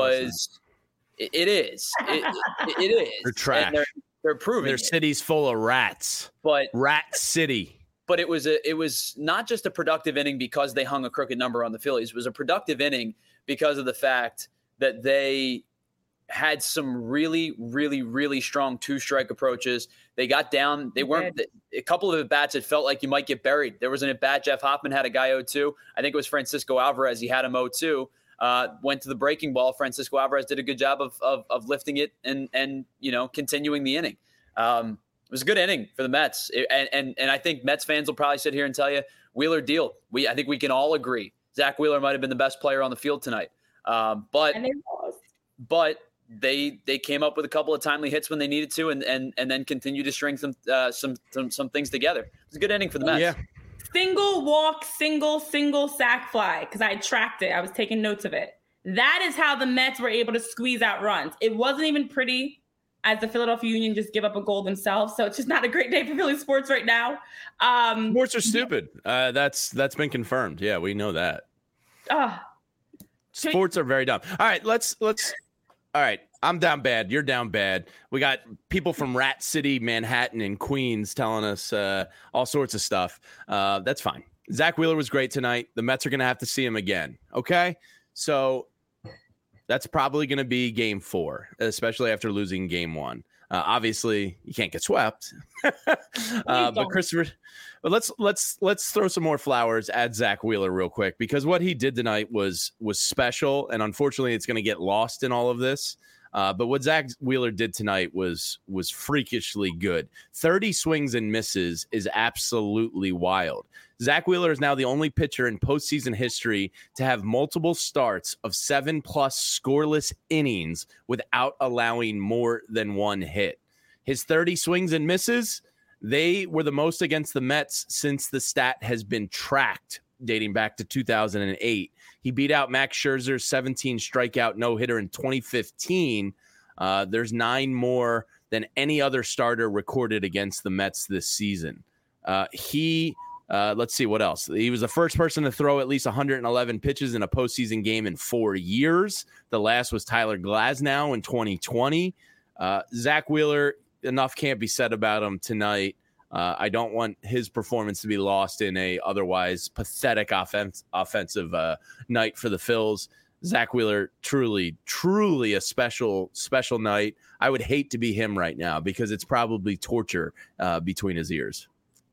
was no, it, it is. It, it, it is. They're trash. And they're, they're proving Their it. city's full of rats. But Rat City. But it was a it was not just a productive inning because they hung a crooked number on the Phillies. It was a productive inning because of the fact that they had some really, really, really strong two-strike approaches. They got down. They weren't – a couple of at-bats, it felt like you might get buried. There was an at-bat. Jeff Hoffman had a guy oh two. I think it was Francisco Alvarez. He had him oh two. Uh, went to the breaking ball. Francisco Alvarez did a good job of of, of lifting it and, and, you know, continuing the inning. Um, it was a good inning for the Mets. It, and, and and I think Mets fans will probably sit here and tell you, Wheeler deal. We I think we can all agree. Zach Wheeler might have been the best player on the field tonight. Um, but And they lost. But – They they came up with a couple of timely hits when they needed to, and and and then continue to string some uh, some, some some things together. It was a good inning for the Mets. Yeah. Single walk, single, single sack fly, because I tracked it. I was taking notes of it. That is how the Mets were able to squeeze out runs. It wasn't even pretty as the Philadelphia Union just give up a goal themselves. So it's just not a great day for Philly sports right now. Um, Sports are stupid. Uh, that's that's been confirmed. Yeah, we know that. Uh, Sports are very dumb. All right, let's let's. All right, I'm down bad. You're down bad. We got people from Rat City, Manhattan, and Queens telling us uh, all sorts of stuff. Uh, that's fine. Zach Wheeler was great tonight. The Mets are going to have to see him again. Okay, so that's probably going to be game four, especially after losing game one. Uh, obviously, you can't get swept. uh, but Christopher, but let's let's let's throw some more flowers at Zach Wheeler real quick, because what he did tonight was was special, and unfortunately, it's going to get lost in all of this. Uh, but what Zach Wheeler did tonight was was freakishly good. thirty swings and misses is absolutely wild. Zach Wheeler is now the only pitcher in postseason history to have multiple starts of seven plus scoreless innings without allowing more than one hit. His thirty swings and misses, they were the most against the Mets since the stat has been tracked, dating back to two thousand eight. He beat out Max Scherzer's seventeen strikeout no-hitter in twenty fifteen. Uh, there's nine more than any other starter recorded against the Mets this season. Uh, he, uh, let's see what else. He was the first person to throw at least one hundred eleven pitches in a postseason game in four years. The last was Tyler Glasnow in twenty twenty. Uh, Zach Wheeler, enough can't be said about him tonight. Uh, I don't want his performance to be lost in a otherwise pathetic offense, offensive uh, night for the Phils. Zach Wheeler, truly, truly a special, special night. I would hate to be him right now because it's probably torture uh, between his ears.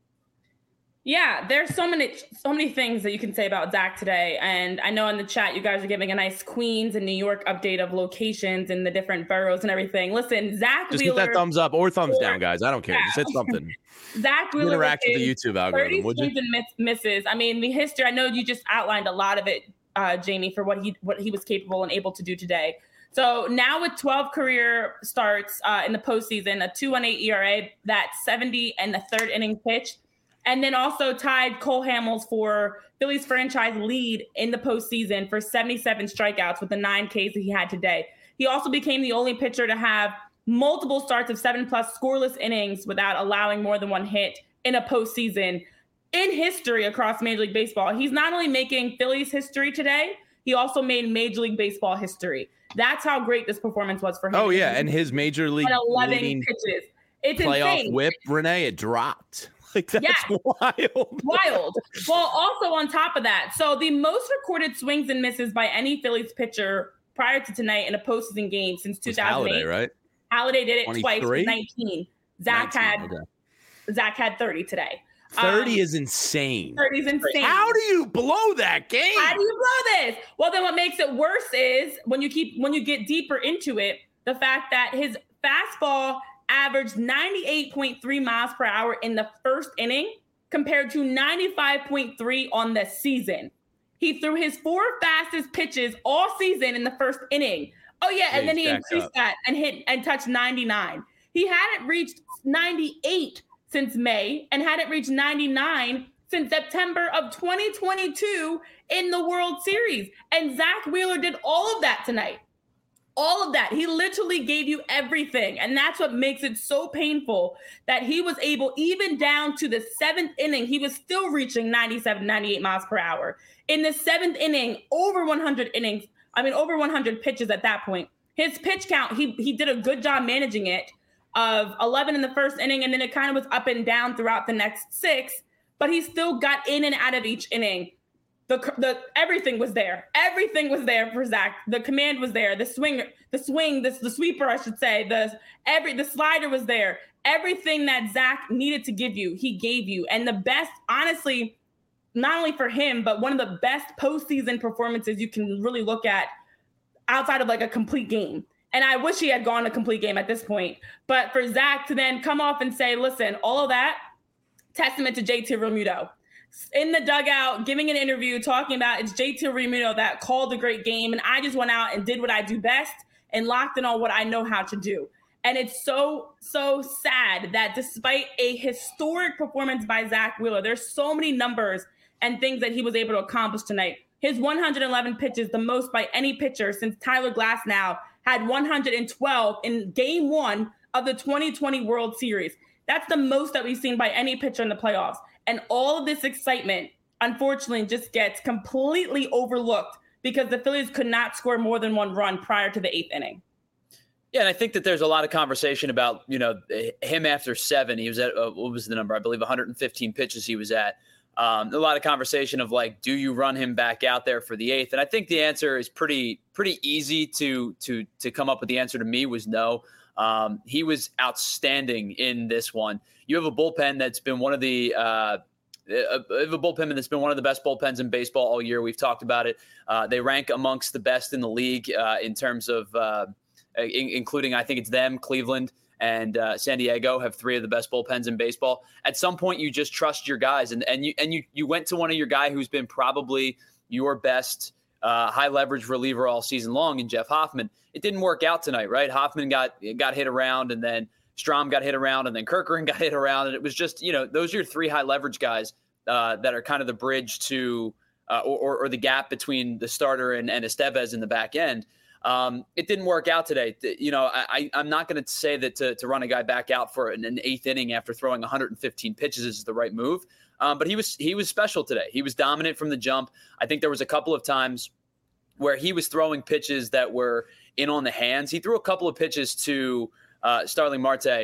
Yeah, there's so many, so many things that you can say about Zach today. And I know in the chat, you guys are giving a nice Queens and New York update of locations and the different boroughs and everything. Listen, Zach Just Wheeler. hit that thumbs up or thumbs or, down, guys. I don't care. Yeah. Just hit something. Zach Wheeler. Interact with the YouTube algorithm, would you? And miss, misses. I mean, the history, I know you just outlined a lot of it, uh, Jamie, for what he, what he was capable and able to do today. So now with twelve career starts uh, in the postseason, a two point one eight E R A, that seventy and the third inning pitch. And then also tied Cole Hamels for Phillies franchise lead in the postseason for seventy-seven strikeouts with the nine Ks that he had today. He also became the only pitcher to have multiple starts of seven plus scoreless innings without allowing more than one hit in a postseason in history across Major League Baseball. He's not only making Phillies history today, he also made Major League Baseball history. That's how great this performance was for him. Oh, yeah, and his Major League eleven pitches. It's playoff insane. whip, Renee, it dropped. Like, that's yeah. wild. Wild. Well, also on top of that, so the most recorded swings and misses by any Phillies pitcher prior to tonight in a postseason game since two thousand eight. Halladay, right? Halladay did it twice with nineteen. Zach nineteen, had okay. Zach had thirty today. thirty um, is insane. thirty is insane. How do you blow that game? How do you blow this? Well, then what makes it worse is when you keep when you get deeper into it, the fact that his fastball averaged ninety-eight point three miles per hour in the first inning compared to ninety-five point three on the season. He threw his four fastest pitches all season in the first inning. Oh yeah, and then he increased that and hit and touched ninety-nine. He hadn't reached ninety-eight since May and hadn't reached ninety-nine since September of twenty twenty-two in the World Series. And Zach Wheeler did all of that tonight. All of that. He literally gave you everything. And that's what makes it so painful that he was able, even down to the seventh inning, he was still reaching ninety-seven, ninety-eight miles per hour. In the seventh inning, over one hundred innings, I mean, over one hundred pitches at that point. His pitch count, he he did a good job managing it, of eleven in the first inning, and then it kind of was up and down throughout the next six, but he still got in and out of each inning. The the everything was there. Everything was there for Zach. The command was there. The swing, the swing, the, the sweeper, I should say. The every the slider was there. Everything that Zach needed to give you, he gave you. And the best, honestly, not only for him, but one of the best postseason performances you can really look at outside of like a complete game. And I wish he had gone a complete game at this point. But for Zach to then come off and say, listen, all of that, testament to J T Realmuto. In the dugout, giving an interview, talking about it's J T Realmuto that called a great game, and I just went out and did what I do best and locked in on what I know how to do. And it's so, so sad that despite a historic performance by Zach Wheeler, there's so many numbers and things that he was able to accomplish tonight. His one hundred eleven pitches, the most by any pitcher since Tyler Glasnow had one hundred twelve in game one of the twenty twenty World Series. That's the most that we've seen by any pitcher in the playoffs. And all of this excitement, unfortunately, just gets completely overlooked because the Phillies could not score more than one run prior to the eighth inning. Yeah, and I think that there's a lot of conversation about, you know, him after seven. He was at, uh, what was the number? I believe one hundred fifteen pitches he was at. Um, a lot of conversation of like, do you run him back out there for the eighth? And I think the answer is pretty pretty easy to to to come up with. The answer to me was no. Um, he was outstanding in this one. You have a bullpen that's been one of the uh, a, a bullpen that's been one of the best bullpens in baseball all year. We've talked about it. Uh, they rank amongst the best in the league uh, in terms of uh, in, including, I think it's them, Cleveland and uh, San Diego have three of the best bullpens in baseball. At some point, you just trust your guys, and and you and you you went to one of your guy who's been probably your best uh, high leverage reliever all season long, in Jeff Hoffman. It didn't work out tonight, right? Hoffman got got hit around, and then Strahm got hit around, and then Kerkering got hit around, and it was just, you know, those are your three high leverage guys uh, that are kind of the bridge to uh, or, or the gap between the starter and, and Estevez in the back end. Um, it didn't work out today. You know, I, I'm not going to say that to, to run a guy back out for an, an eighth inning after throwing one hundred fifteen pitches is the right move. Um, but he was he was special today. He was dominant from the jump. I think there was a couple of times where he was throwing pitches that were in on the hands. He threw a couple of pitches to uh, Starling Marte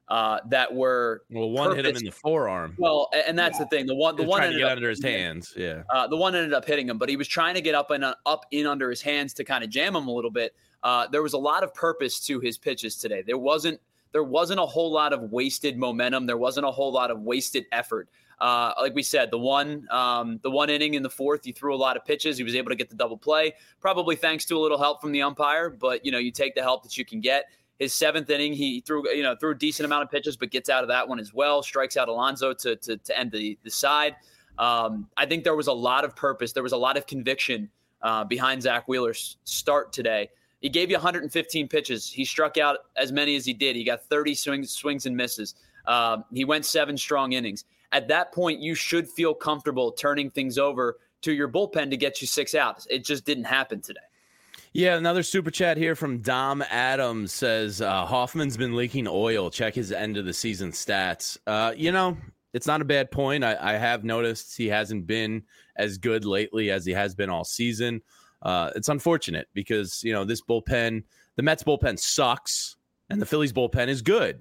uh, that were well, one purpose- hit him in the forearm. Well, and that's the thing. The one, the one trying to get up, under his hands. Yeah, uh, the one ended up hitting him, but he was trying to get up and uh, up in under his hands to kind of jam him a little bit. Uh, there was a lot of purpose to his pitches today. There wasn't there wasn't a whole lot of wasted momentum. There wasn't a whole lot of wasted effort. Uh, like we said, the one um, the one inning in the fourth, he threw a lot of pitches. He was able to get the double play, probably thanks to a little help from the umpire. But you know, you take the help that you can get. His seventh inning, he threw you know threw a decent amount of pitches, but gets out of that one as well. Strikes out Alonso to to, to end the the side. Um, I think there was a lot of purpose. There was a lot of conviction uh, behind Zach Wheeler's start today. He gave you one hundred fifteen pitches. He struck out as many as he did. He got thirty swings, swings and misses. Um, he went seven strong innings. At that point, you should feel comfortable turning things over to your bullpen to get you six outs. It just didn't happen today. Yeah, another super chat here from Dom Adams says uh, Hoffman's been leaking oil. Check his end of the season stats. Uh, you know, it's not a bad point. I, I have noticed he hasn't been as good lately as he has been all season. Uh, it's unfortunate because, you know, this bullpen, the Mets bullpen sucks and the Phillies bullpen is good.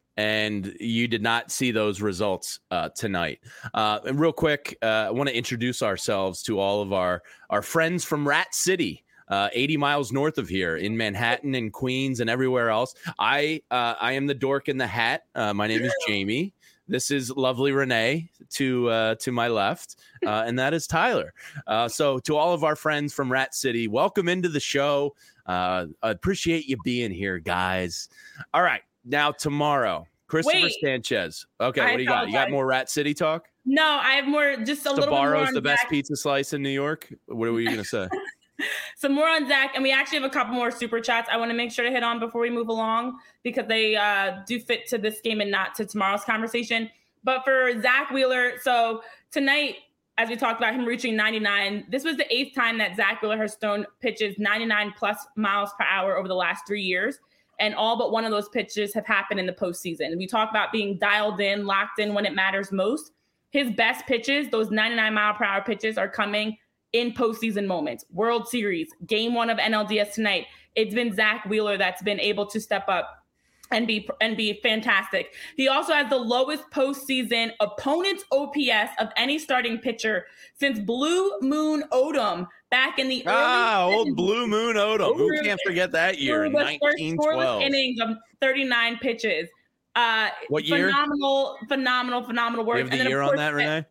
And you did not see those results uh, tonight. Uh, and real quick, uh, I want to introduce ourselves to all of our, our friends from Rat City, uh, eighty miles north of here in Manhattan and Queens and everywhere else. I uh, I am the dork in the hat. Uh, my name is Jamie. This is lovely Renee to uh, to my left, uh, and that is Tyler. Uh, so to all of our friends from Rat City, welcome into the show. Uh, I appreciate you being here, guys. All right. Now, tomorrow, Christopher Wait. Sanchez. Okay, I what do you got? You got apologize. more Rat City talk? No, I have more, just a little bit more Sabaro's on the best Zach. pizza slice in New York? What were you going to say? Some more on Zach, and we actually have a couple more super chats I want to make sure to hit on before we move along because they uh, do fit to this game and not to tomorrow's conversation. But for Zach Wheeler, so tonight, as we talked about him reaching ninety-nine, this was the eighth time that Zach Wheeler has thrown pitches ninety-nine plus miles per hour over the last three years. And all but one of those pitches have happened in the postseason. We talk about being dialed in, locked in when it matters most. His best pitches, those ninety-nine mile per hour pitches, are coming in postseason moments. World Series, game one of N L D S tonight. It's been Zach Wheeler that's been able to step up and be and be fantastic. He also has the lowest postseason opponent's O P S of any starting pitcher since Blue Moon Odom back in the Ah, early old Blue Moon Odom. Who Through- can't forget that year in through the first nineteen scoreless twelve? innings of thirty-nine pitches. Uh, What year? Phenomenal, phenomenal, phenomenal work. You have And the then, of year on course, that, Renee?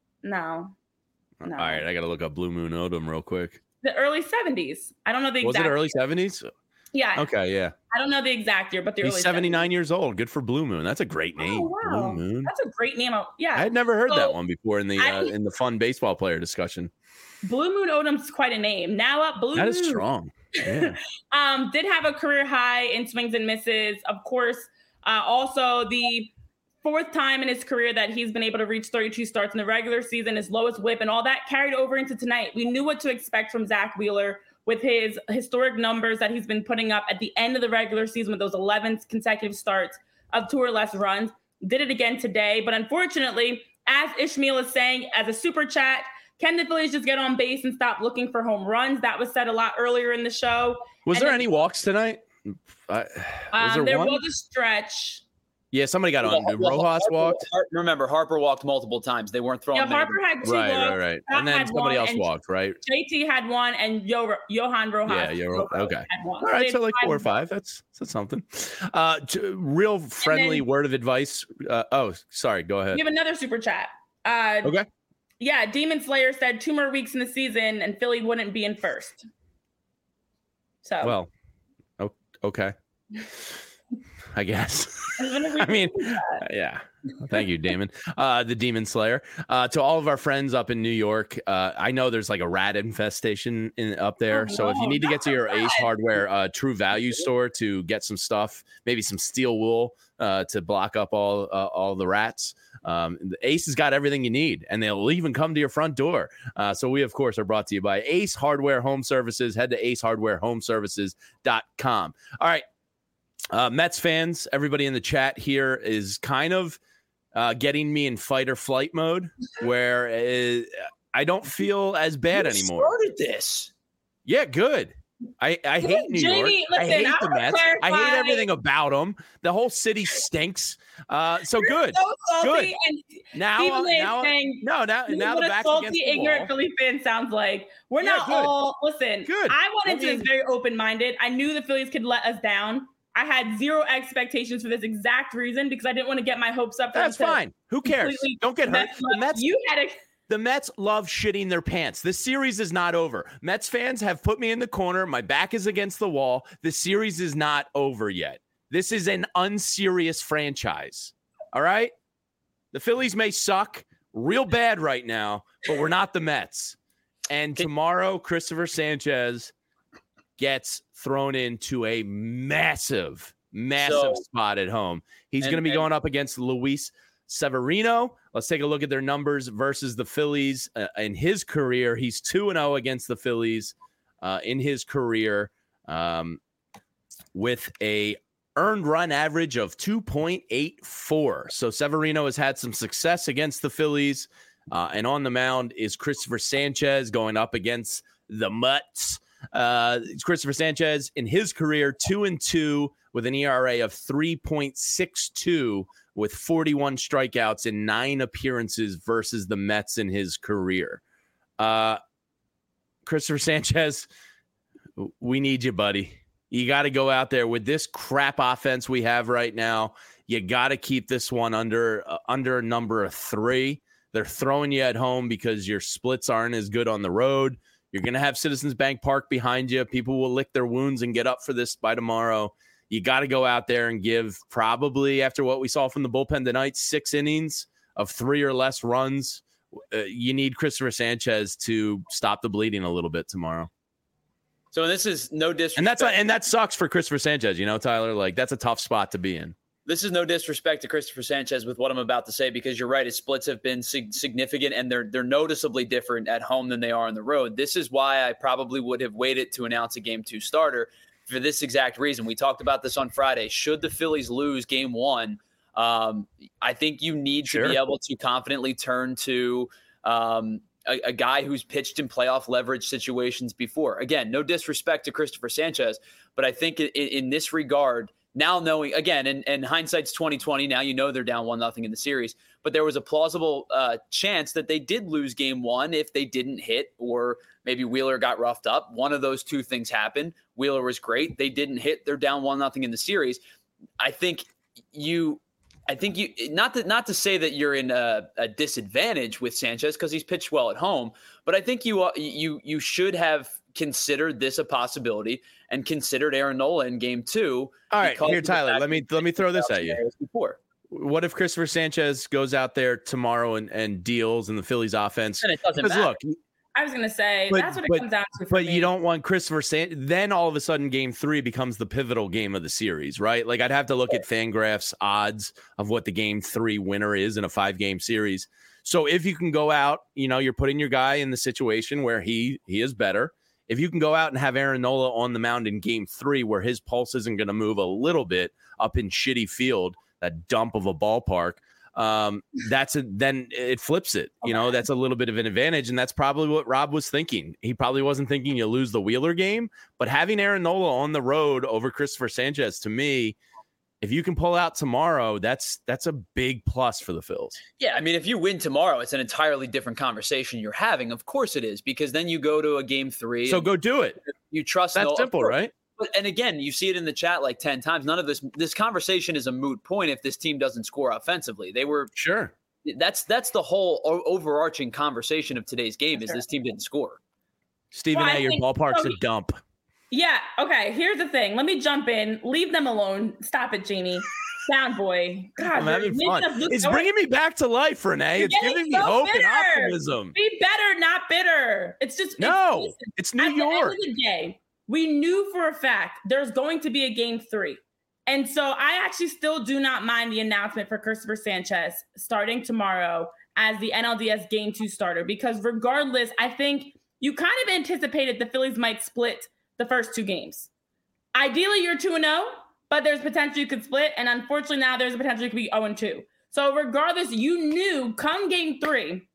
No, no. All right, I got to look up Blue Moon Odom real quick. The early seventies. I don't know the Was exact. it early year. seventies? Yeah. Okay, yeah. I don't know the exact year, but the He's early seventy-nine years old. Good for Blue Moon. That's a great name. Oh, wow. Blue Moon. That's a great name. Yeah. I had never heard So, that one before in the I- uh, in the fun baseball player discussion. Blue Moon Odom's quite a name. Now up Blue That Moon. is strong. Yeah. Um, did have a career high in swings and misses. Of course, uh, also the fourth time in his career that he's been able to reach thirty-two starts in the regular season, his lowest whip, and all that carried over into tonight. We knew what to expect from Zach Wheeler with his historic numbers that he's been putting up at the end of the regular season with those eleven consecutive starts of two or less runs. Did it again today, but unfortunately, as Ishmael is saying, as a super chat, can the Phillies just get on base and stop looking for home runs? That was said a lot earlier in the show. Was And there then- any walks tonight? Uh, was Um, there, there one? was a stretch. Yeah, somebody got on. Did Well, Rojas Harper- walked? Har- Remember, Harper walked multiple times. They weren't throwing. Yeah, many. Harper had two Right, walks. right, right. Scott And then had somebody one, else and walked, right? J T had one, and Yo- Johan Rojas. Yeah, yeah, Ro- okay. had one. All right, they so had like four or five. five. That's that's something. Uh, t- real friendly then- word of advice. Uh, oh, sorry. Go ahead. We have another super chat. Uh, Okay. Yeah, Demon Slayer said two more weeks in the season, and Philly wouldn't be in first. So Well, o- okay. I guess. I I mean, yeah. Thank you, Damon. Uh, the Demon Slayer. Uh, to all of our friends up in New York, uh, I know there's like a rat infestation in up there. Oh, so if you no, need to get to your not Ace bad. Hardware uh, True Value store to get some stuff, maybe some steel wool uh, to block up all uh, all the rats, um, the Ace has got everything you need, and they'll even come to your front door. Uh, so we, of course, are brought to you by Ace Hardware Home Services. Head to ace hardware home services dot com. All right. Uh, Mets fans, everybody in the chat here is kind of uh, getting me in fight or flight mode where uh, I don't feel as bad Who anymore. started this? Yeah, good. I, I hate New Jamie, York. listen, I hate I the wanna Mets. I hate clarify- everything about them. The whole city stinks. Uh, so good. So salty, Good. and Now, Stephen uh, A. is now, saying, no, now, this is now what the a back's against salty, the ignorant wall. Philly fan sounds like. We're Yeah, not good. all listen. Good. I went I into mean- this very open-minded. I knew the Phillies could let us down. I had zero expectations for this exact reason because I didn't want to get my hopes up. for That's them to fine. Who cares? completely Don't get hurt. mess The up. Mets, You had a the Mets love shitting their pants. This series is not over. Mets fans have put me in the corner. My back is against the wall. The series is not over yet. This is an unserious franchise. All right? The Phillies may suck real bad right now, but we're not the Mets. And tomorrow, Christopher Sanchez gets thrown into a massive, massive So- spot at home. He's and- going to be and- going up against Luis Severino. Let's take a look at their numbers versus the Phillies uh, in his career. He's two and oh against the Phillies uh, in his career um, with a earned run average of two point eight four. So Severino has had some success against the Phillies. Uh, and on the mound is Christopher Sanchez going up against the Mutts. Uh, Christopher Sanchez in his career, two and two with an E R A of three point six two with forty-one strikeouts in nine appearances versus the Mets in his career. Uh, Christopher Sanchez, we need you, buddy. You got to go out there with this crap offense we have right now. You got to keep this one under uh, under number of three. They're throwing you at home because your splits aren't as good on the road. You're going to have Citizens Bank Park behind you. People will lick their wounds and get up for this by tomorrow. You got to go out there and give probably, after what we saw from the bullpen tonight, six innings of three or less runs. Uh, you need Christopher Sanchez to stop the bleeding a little bit tomorrow. So this is no disrespect. And that's and that sucks for Christopher Sanchez, you know, Tyler. Like, that's a tough spot to be in. This is no disrespect to Christopher Sanchez with what I'm about to say, because you're right. His splits have been sig- significant, and they're they're noticeably different at home than they are on the road. This is why I probably would have waited to announce a game two starter for this exact reason. We talked about this on Friday. Should the Phillies lose game one, um, I think you need Sure. to be able to confidently turn to um, a, a guy who's pitched in playoff leverage situations before. Again, no disrespect to Christopher Sanchez, but I think in, in this regard, now knowing, again, and, and hindsight's twenty twenty, now you know they're down one nothing in the series, but there was a plausible uh, chance that they did lose game one if they didn't hit, or maybe Wheeler got roughed up. One of those two things happened. Wheeler was great. They didn't hit. They're down one nothing in the series. I think you, I think you, not to, not to say that you're in a, a disadvantage with Sanchez because he's pitched well at home, but I think you, you, you should have considered this a possibility and considered Aaron Nola in game two. All right, here, Tyler, let me let me throw this at you. Before. What if Christopher Sanchez goes out there tomorrow and, and deals in the Phillies offense? And it doesn't Because matter. look, I was gonna say But- that's what it but- comes down to. For but me. you don't want Christopher Sanchez. Then all of a sudden, game three becomes the pivotal game of the series, right? Like, I'd have to look at Fangraphs odds of what the game three winner is in a five game series. So if you can go out, you know, you're putting your guy in the situation where he he is better. If you can go out and have Aaron Nola on the mound in game three, where his pulse isn't going to move a little bit up in shitty field, that dump of a ballpark, um, that's a, then it flips it. You know, that's a little bit of an advantage. And that's probably what Rob was thinking. He probably wasn't thinking you lose the Wheeler game, but having Aaron Nola on the road over Christopher Sanchez, to me, if you can pull out tomorrow, that's that's a big plus for the Phils. Yeah, I mean, if you win tomorrow, it's an entirely different conversation you're having. Of course it is, because then you go to a game three. So and go do it. You trust. That's Nola. simple, right? But, and again, you see it in the chat like ten times. None of this this conversation is a moot point if this team doesn't score offensively. They were Sure. that's that's the whole o- overarching conversation of today's game is Sure. this team didn't score. Stephen Well, I A., your think- ballpark's so- a dump. Yeah. Okay. Here's the thing. Let me jump in. Leave them alone. Stop it, Jamie. Down, boy. God, I'm you're having making fun. us look It's so- bringing me back to life, Renee. You're It's getting giving me so hope and bitter. optimism. Be better, not bitter. It's just No, It's, listen, it's New at York. the end of the day, we knew for a fact there's going to be a game three. And so I actually still do not mind the announcement for Christopher Sanchez starting tomorrow as the N L D S game two starter, because regardless, I think you kind of anticipated the Phillies might split the first two games. Ideally, you're two and oh, but there's potential you could split. And unfortunately, now there's a potential you could be oh and two. So regardless, you knew come game three,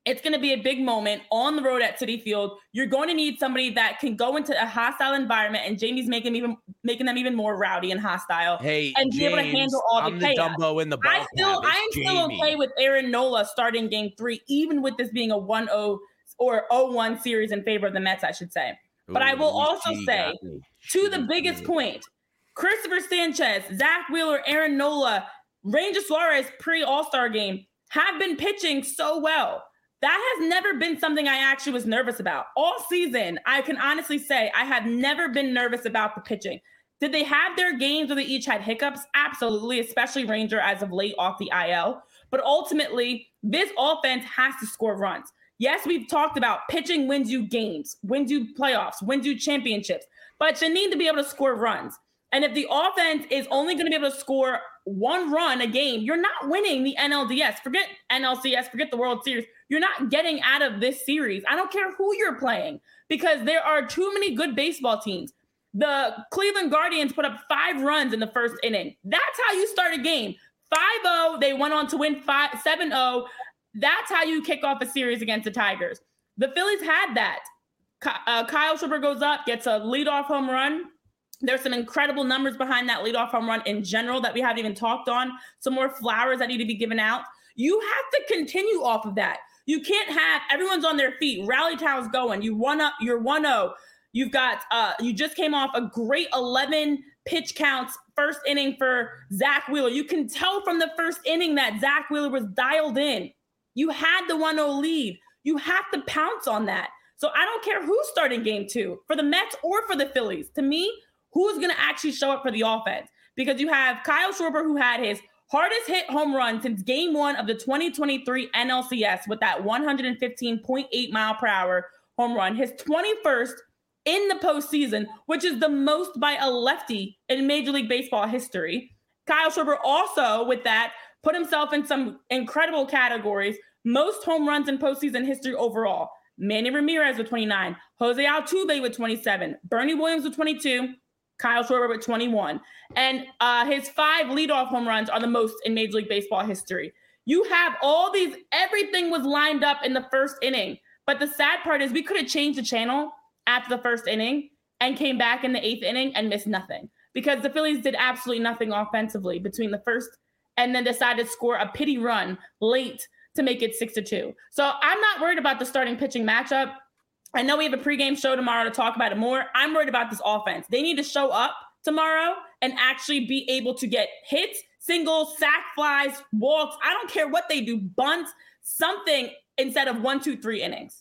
It's going to be a big moment on the road at Citi Field. You're going to need somebody that can go into a hostile environment, and Jamie's making them even making them even more rowdy and hostile. Hey, and James, be able to handle all I'm the the chaos. Dumbo in the ball. I still, I am Jamie. still okay with Aaron Nola starting Game Three, even with this being a one oh or oh one series in favor of the Mets, I should say. But Ooh, I will also say, to the biggest point, Christopher Sanchez, Zach Wheeler, Aaron Nola, Ranger Suarez pre-All-Star game have been pitching so well. That has never been something I actually was nervous about. All season, I can honestly say I have never been nervous about the pitching. Did they have their games where they each had hiccups? Absolutely, especially Ranger as of late off the I L. But ultimately, this offense has to score runs. Yes, we've talked about pitching wins you games, wins you playoffs, wins you championships, but you need to be able to score runs. And if the offense is only going to be able to score one run a game, you're not winning the N L D S. Forget N L C S, forget the World Series. You're not getting out of this series. I don't care who you're playing because there are too many good baseball teams. The Cleveland Guardians put up five runs in the first inning. That's how you start a game. five oh, they went on to win seven oh. That's how you kick off a series against the Tigers. The Phillies had that. Uh, Kyle Schwarber goes up, gets a leadoff home run. There's some incredible numbers behind that leadoff home run in general that we haven't even talked on. Some more flowers that need to be given out. You have to continue off of that. You can't have everyone's on their feet. Rally towels going. You one up. You're one oh. You've got. Uh, you just came off a great eleven pitch counts first inning for Zach Wheeler. You can tell from the first inning that Zach Wheeler was dialed in. You had the one oh lead. You have to pounce on that. So I don't care who's starting game two for the Mets or for the Phillies. To me, who's going to actually show up for the offense? Because you have Kyle Schwarber, who had his hardest hit home run since game one of the twenty twenty-three N L C S with that one fifteen point eight mile per hour home run, his twenty-first in the postseason, which is the most by a lefty in Major League Baseball history. Kyle Schwarber also, with that, put himself in some incredible categories. Most home runs in postseason history overall. Manny Ramirez with twenty-nine, Jose Altuve with twenty-seven, Bernie Williams with twenty-two, Kyle Schwarber with twenty-one. And uh, his five leadoff home runs are the most in Major League Baseball history. You have all these, everything was lined up in the first inning. But the sad part is we could have changed the channel after the first inning and came back in the eighth inning and missed nothing. Because the Phillies did absolutely nothing offensively between the first and then decided to score a pity run late to make it six to two. So I'm not worried about the starting pitching matchup. I know we have a pregame show tomorrow to talk about it more. I'm worried about this offense. They need to show up tomorrow and actually be able to get hits, singles, sack flies, walks. I don't care what they do, bunts, something instead of one, two, three innings.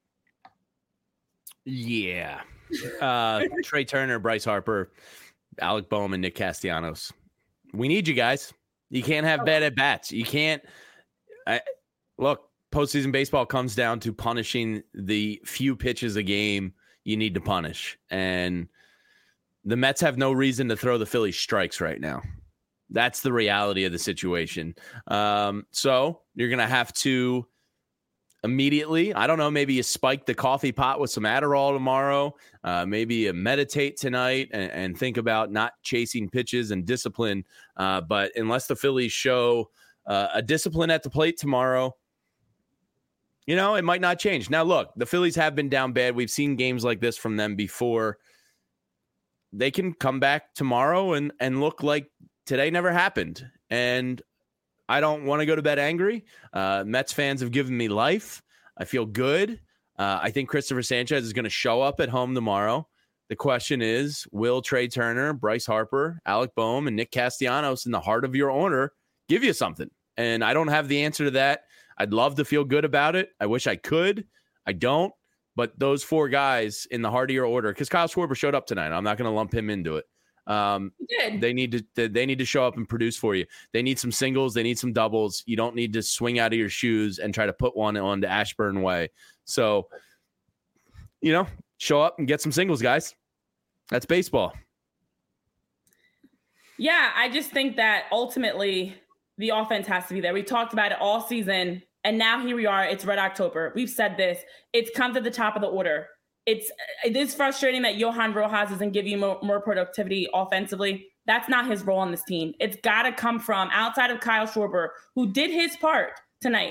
Yeah. Uh, Trey Turner, Bryce Harper, Alec Bohm, and Nick Castellanos. We need you guys. You can't have bad at bats. You can't. I, look, postseason baseball comes down to punishing the few pitches a game you need to punish. And the Mets have no reason to throw the Phillies strikes right now. That's the reality of the situation. Um, so you're going to have to immediately, I don't know, maybe you spike the coffee pot with some Adderall tomorrow. Uh, maybe you meditate tonight and, and think about not chasing pitches and discipline. Uh, but unless the Phillies show uh, a discipline at the plate tomorrow, you know, it might not change. Now, look, the Phillies have been down bad. We've seen games like this from them before. They can come back tomorrow and, and look like today never happened. And I don't want to go to bed angry. Uh, Mets fans have given me life. I feel good. Uh, I think Christopher Sanchez is going to show up at home tomorrow. The question is, will Trey Turner, Bryce Harper, Alec Bohm, and Nick Castellanos in the heart of your order give you something? And I don't have the answer to that. I'd love to feel good about it. I wish I could. I don't. But those four guys in the heart of your order, because Kyle Schwarber showed up tonight. I'm not going to lump him into it. Um, they need to they need to show up and produce for you. They need some singles. They need some doubles. You don't need to swing out of your shoes and try to put one on the Ashburn way. So, you know, show up and get some singles, guys. That's baseball. Yeah, I just think that ultimately the offense has to be there. We talked about it all season, and now here we are. It's Red October. We've said this. It comes at the top of the order. It's it is frustrating that Johan Rojas doesn't give you more, more productivity offensively. That's not his role on this team. It's got to come from outside of Kyle Schwarber, who did his part tonight.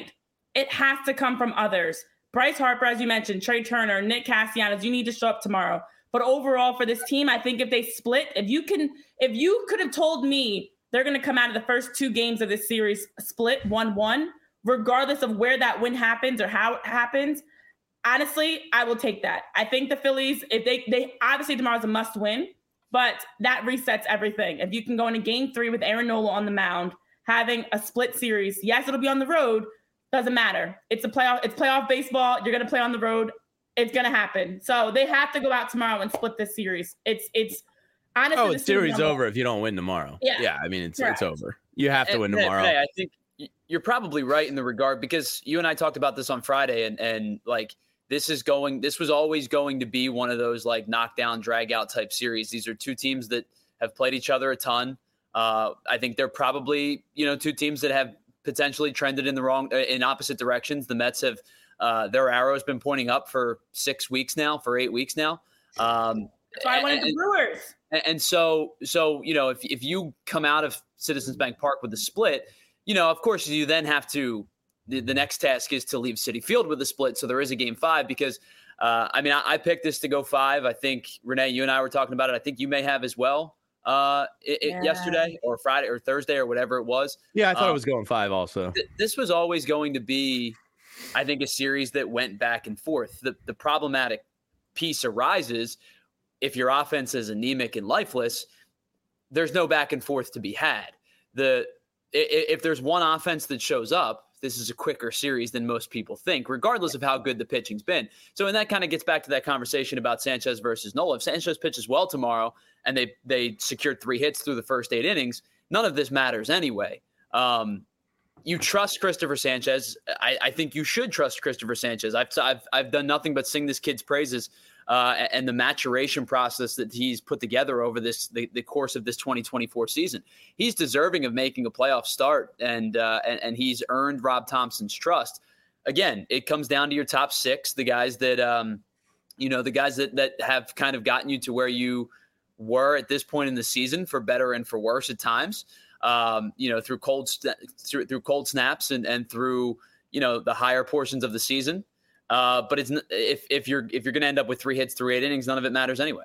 it has to come from others. Bryce Harper, as you mentioned, Trey Turner, Nick Castellanos, you need to show up tomorrow. But overall for this team, I think if they split, if you can, if you could have told me they're going to come out of the first two games of this series split one one, regardless of where that win happens or how it happens, honestly, I will take that. I think the Phillies, if they, they obviously tomorrow's a must win, but that resets everything. If you can go into game three with Aaron Nola on the mound, having a split series, yes, it'll be on the road. Doesn't matter. It's a playoff. It's playoff baseball. You're going to play on the road. It's going to happen. So they have to go out tomorrow and split this series. It's, it's honestly. Oh, the series over if you don't win tomorrow. Yeah. Yeah. I mean, it's, Correct. it's over. You have to and, win tomorrow. Hey, I think you're probably right in the regard because you and I talked about this on Friday and, and like, this is going, this was always going to be one of those like knockdown, drag out type series. These are two teams that have played each other a ton. Uh, I think they're probably, you know, two teams that have potentially trended in the wrong, in opposite directions. The Mets have, uh, their arrow has been pointing up for six weeks now, for eight weeks now. Um, That's why I wanted the Brewers. And, and so, so, you know, if, if you come out of Citizens Bank Park with a split, you know, of course you then have to, the, the next task is to leave Citi Field with a split. So there is a game five because, uh, I mean, I, I picked this to go five. I think Renee, you and I were talking about it. I think you may have as well. Uh, it, yeah. yesterday or Friday or Thursday or whatever it was. Yeah, I thought um, it was going five also. Th- this was always going to be, I think, a series that went back and forth. The, the problematic piece arises if your offense is anemic and lifeless, there's no back and forth to be had. The if, if there's one offense that shows up, this is a quicker series than most people think, regardless of how good the pitching's been. So, and that kind of gets back to that conversation about Sanchez versus Nola. If Sanchez pitches well tomorrow and they they secured three hits through the first eight innings, none of this matters anyway. Um, you trust Christopher Sanchez. I, I think you should trust Christopher Sanchez. I've, I've, I've done nothing but sing this kid's praises uh, and the maturation process that he's put together over this the, the course of this twenty twenty-four season. He's deserving of making a playoff start, and, uh, and and he's earned Rob Thompson's trust. Again, it comes down to your top six, the guys that um, you know, the guys that that have kind of gotten you to where you were at this point in the season, for better and for worse at times. Um, you know, through cold st- through, through cold snaps and and through you know the higher portions of the season. Uh, but it's if if you're if you're going to end up with three hits through eight innings, none of it matters anyway.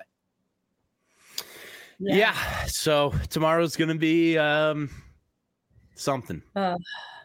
Yeah. yeah so tomorrow's going to be um, something uh.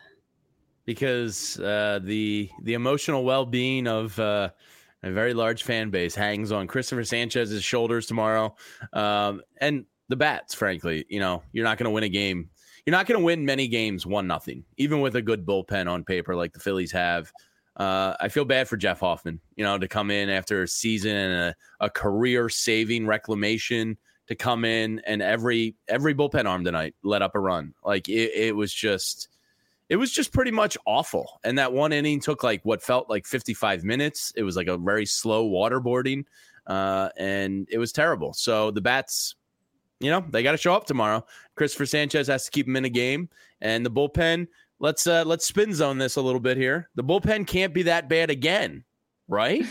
because uh, the the emotional well-being of uh, a very large fan base hangs on Christopher Sanchez's shoulders tomorrow, um, and the bats. Frankly, you know, you're not going to win a game. You're not going to win many games one nothing, even with a good bullpen on paper like the Phillies have. Uh, I feel bad for Jeff Hoffman, you know, to come in after a season and a, a career-saving reclamation to come in and every every bullpen arm tonight let up a run. Like it, it was just, it was just pretty much awful. And that one inning took like what felt like fifty-five minutes. It was like a very slow waterboarding, uh, and it was terrible. So the bats, you know, they got to show up tomorrow. Christopher Sanchez has to keep them in a game, and the bullpen. Let's uh, let's spin zone this a little bit here. The bullpen can't be that bad again, right?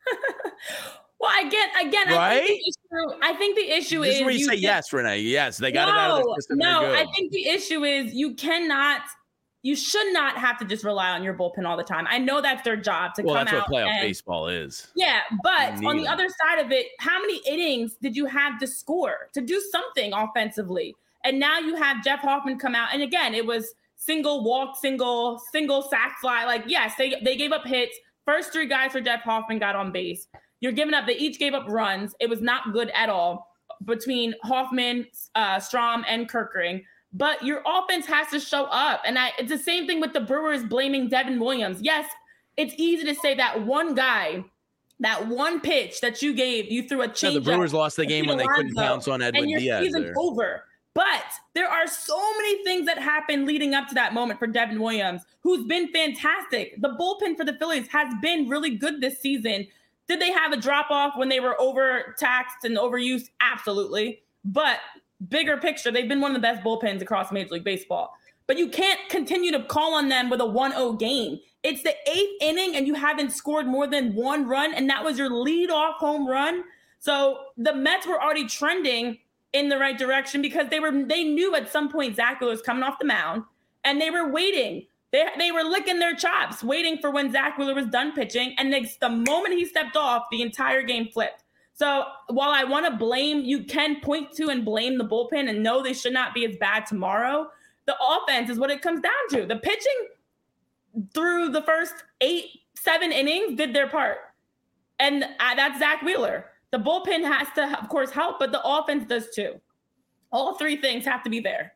Well, again, again, right? I think the issue, I think the issue this is, is where you, you say can, yes, Renee. Yes, they got no, it out of the system. No, I think the issue is you cannot, you should not have to just rely on your bullpen all the time. I know that's their job to well, come out. Well, that's what playoff and, baseball is. Yeah, but on the them. other side of it, how many innings did you have to score to do something offensively? And now you have Jeff Hoffman come out, and again, it was single walk, single, single sack fly. Like, yes, they, they gave up hits. First three guys for Jeff Hoffman got on base. You're giving up, they each gave up runs. It was not good at all between Hoffman, uh, Strom, and Kerkering. But your offense has to show up. And I, it's the same thing with the Brewers blaming Devin Williams. Yes, it's easy to say that one guy, that one pitch that you gave, you threw a change. Yeah, the Brewers lost the game when they couldn't pounce on Edwin and your Diaz. Season's over. But there are so many things that happened leading up to that moment for Devin Williams, who's been fantastic. The bullpen for the Phillies has been really good this season. Did they have a drop-off when they were overtaxed and overused? Absolutely. But bigger picture, they've been one of the best bullpens across Major League Baseball. But you can't continue to call on them with a one oh game. It's the eighth inning, and you haven't scored more than one run, and that was your leadoff home run. So the Mets were already trending in the right direction because they were they knew at some point Zach was coming off the mound, and they were waiting They they were licking their chops, waiting for when Zach Wheeler was done pitching. And the, the moment he stepped off, the entire game flipped. So while I want to blame, you can point to and blame the bullpen and know they should not be as bad tomorrow. The offense is what it comes down to. The pitching through the first eight, seven innings did their part. And uh, that's Zach Wheeler. The bullpen has to, of course, help, but the offense does too. All three things have to be there.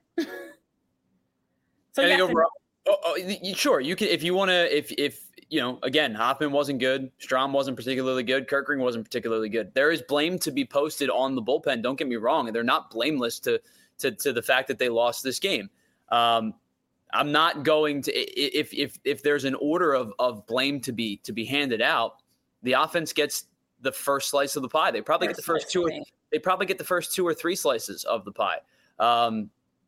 So I yes, think overall, oh, oh, sure, you can if you want to. If if you know, again, Hoffman wasn't good, Strahm wasn't particularly good, Kerkering wasn't particularly good. There is blame to be posted on the bullpen. Don't get me wrong, and they're not blameless to to to the fact that they lost this game. Um, I'm not going to if if if there's an order of of blame to be to be handed out. The offense gets the first slice of the pie. They probably first get the first two. Or, they probably get the first two or three slices of the pie. Um,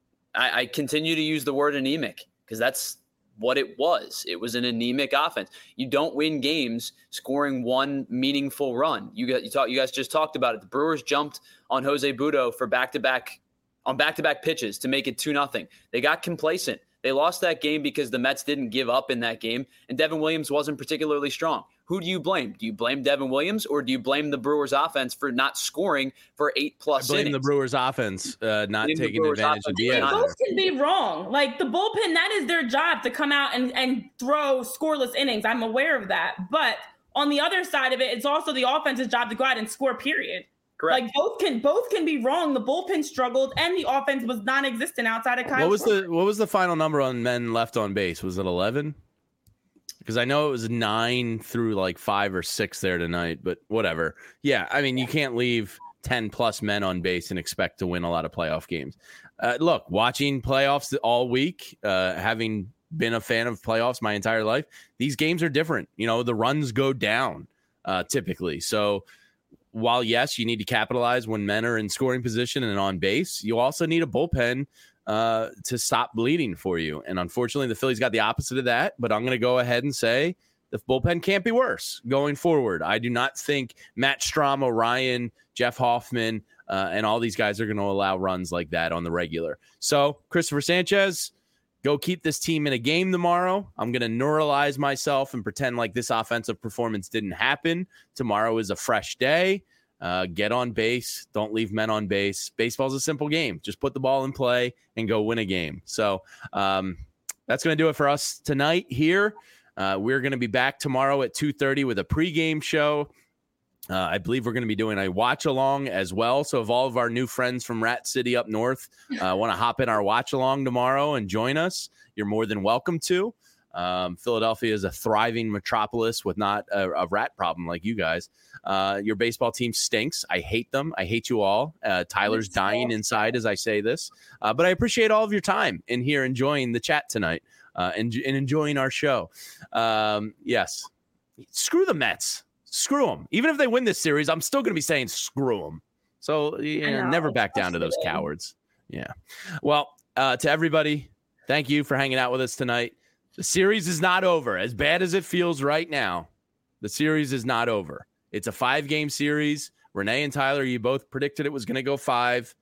I, I continue to use the word anemic because that's what it was. It was an anemic offense. You don't win games scoring one meaningful run. You got you talk. You guys just talked about it. The Brewers jumped on Jose Butto for back to back on back to back pitches to make it two nothing. They got complacent. They lost that game because the Mets didn't give up in that game, and Devin Williams wasn't particularly strong. Who do you blame? Do you blame Devin Williams, or do you blame the Brewers offense for not scoring for eight plus I blame innings? the Brewers offense uh, not Blame taking Brewers advantage of the They end. both can be wrong. Like the bullpen, that is their job to come out and, and throw scoreless innings. I'm aware of that. But on the other side of it, it's also the offense's job to go out and score, period. Correct. Like both can both can be wrong. The bullpen struggled and the offense was non-existent outside of Kyle. What was Schwarber. the what was the final number on men left on base? Was it eleven? Because I know it was nine through like five or six there tonight, but whatever. Yeah, I mean, you can't leave ten plus men on base and expect to win a lot of playoff games. Uh, look, watching playoffs all week, uh, having been a fan of playoffs my entire life, these games are different. You know, the runs go down uh, typically. So while, yes, you need to capitalize when men are in scoring position and on base, you also need a bullpen uh, to stop bleeding for you. And unfortunately, the Phillies got the opposite of that. But I'm going to go ahead and say the bullpen can't be worse going forward. I do not think Matt Strahm, Orion, Jeff Hoffman, uh, and all these guys are going to allow runs like that on the regular. So, Christopher Sanchez, go keep this team in a game tomorrow. I'm going to neuralize myself and pretend like this offensive performance didn't happen. Tomorrow is a fresh day. Uh, get on base. Don't leave men on base. Baseball's a simple game. Just put the ball in play and go win a game. So um, that's going to do it for us tonight here. Uh, we're going to be back tomorrow at two thirty with a pregame show. Uh, I believe we're going to be doing a watch along as well. So if all of our new friends from Rat City up north uh, want to hop in our watch along tomorrow and join us, you're more than welcome to. Um, Philadelphia is a thriving metropolis with not a, a rat problem like you guys. Uh, your baseball team stinks. I hate them. I hate you all. Uh, Tyler's dying inside as I say this, uh, but I appreciate all of your time in here enjoying the chat tonight uh, and, and enjoying our show. Um, yes, screw the Mets. Screw them. Even if they win this series, I'm still going to be saying screw them. So yeah, never back down to those cowards. Yeah. Well, uh, to everybody, thank you for hanging out with us tonight. The series is not over. As bad as it feels right now, the series is not over. It's a five-game series. Renee and Tyler, you both predicted it was going to go five.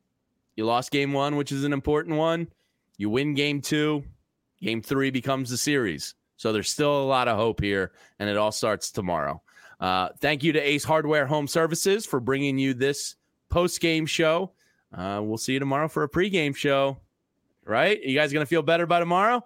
You lost game one, which is an important one. You win game two. Game three becomes the series. So there's still a lot of hope here, and it all starts tomorrow. Uh, thank you to Ace Hardware Home Services for bringing you this post-game show. Uh, we'll see you tomorrow for a pre-game show. Right? You guys going to feel better by tomorrow?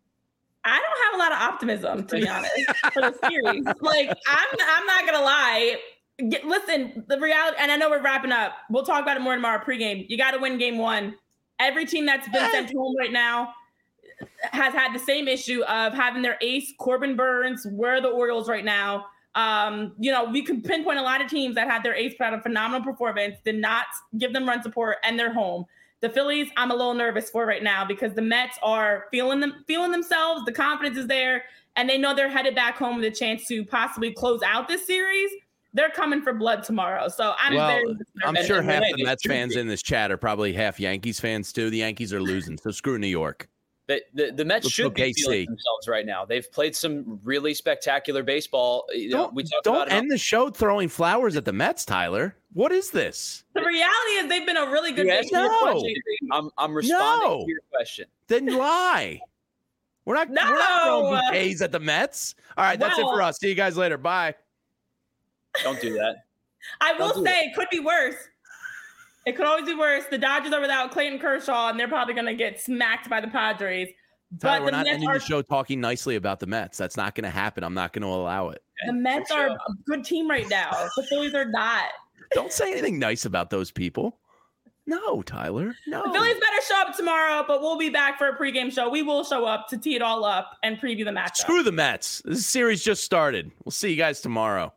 I don't have a lot of optimism, to be honest, for the series. Like, I'm I'm not going to lie. Get, listen, the reality, and I know we're wrapping up. We'll talk about it more tomorrow pregame. You got to win game one. Every team that's been sent home right now has had the same issue of having their ace, Corbin Burns. Where are the Orioles right now? Um, you know, we can pinpoint a lot of teams that had their ace put out a phenomenal performance, did not give them run support, and they're home. The Phillies, I'm a little nervous for right now because the Mets are feeling them, feeling themselves. The confidence is there, and they know they're headed back home with a chance to possibly close out this series. They're coming for blood tomorrow. So I'm well, very I'm nervous. sure and, half and the Mets fans in this chat are probably half Yankees fans too. The Yankees are losing, so screw New York. The, the, the Mets Let's should be feeling themselves right now. They've played some really spectacular baseball. You know, Don't, we talked don't about end how, the show throwing flowers at the Mets, Tyler. What is this? The reality is they've been a really good you team. asked me a No. question. I'm, I'm responding No. to your question. Then lie. We're not, No! we're not throwing bouquets at the Mets. All right, that's Well, it for us. See you guys later. Bye. Don't do that. I will Don't do say it. it could be worse. It could always be worse. The Dodgers are without Clayton Kershaw, and they're probably going to get smacked by the Padres. Tyler, But we're the not Mets ending are the show talking nicely about the Mets. That's not going to happen. I'm not going to allow it. the Mets For are sure. a good team right now. The Phillies are not. Don't say anything nice about those people. No, Tyler. No. The Phillies better show up tomorrow, but we'll be back for a pregame show. We will show up to tee it all up and preview the matchup. Screw the Mets. This series just started. We'll see you guys tomorrow.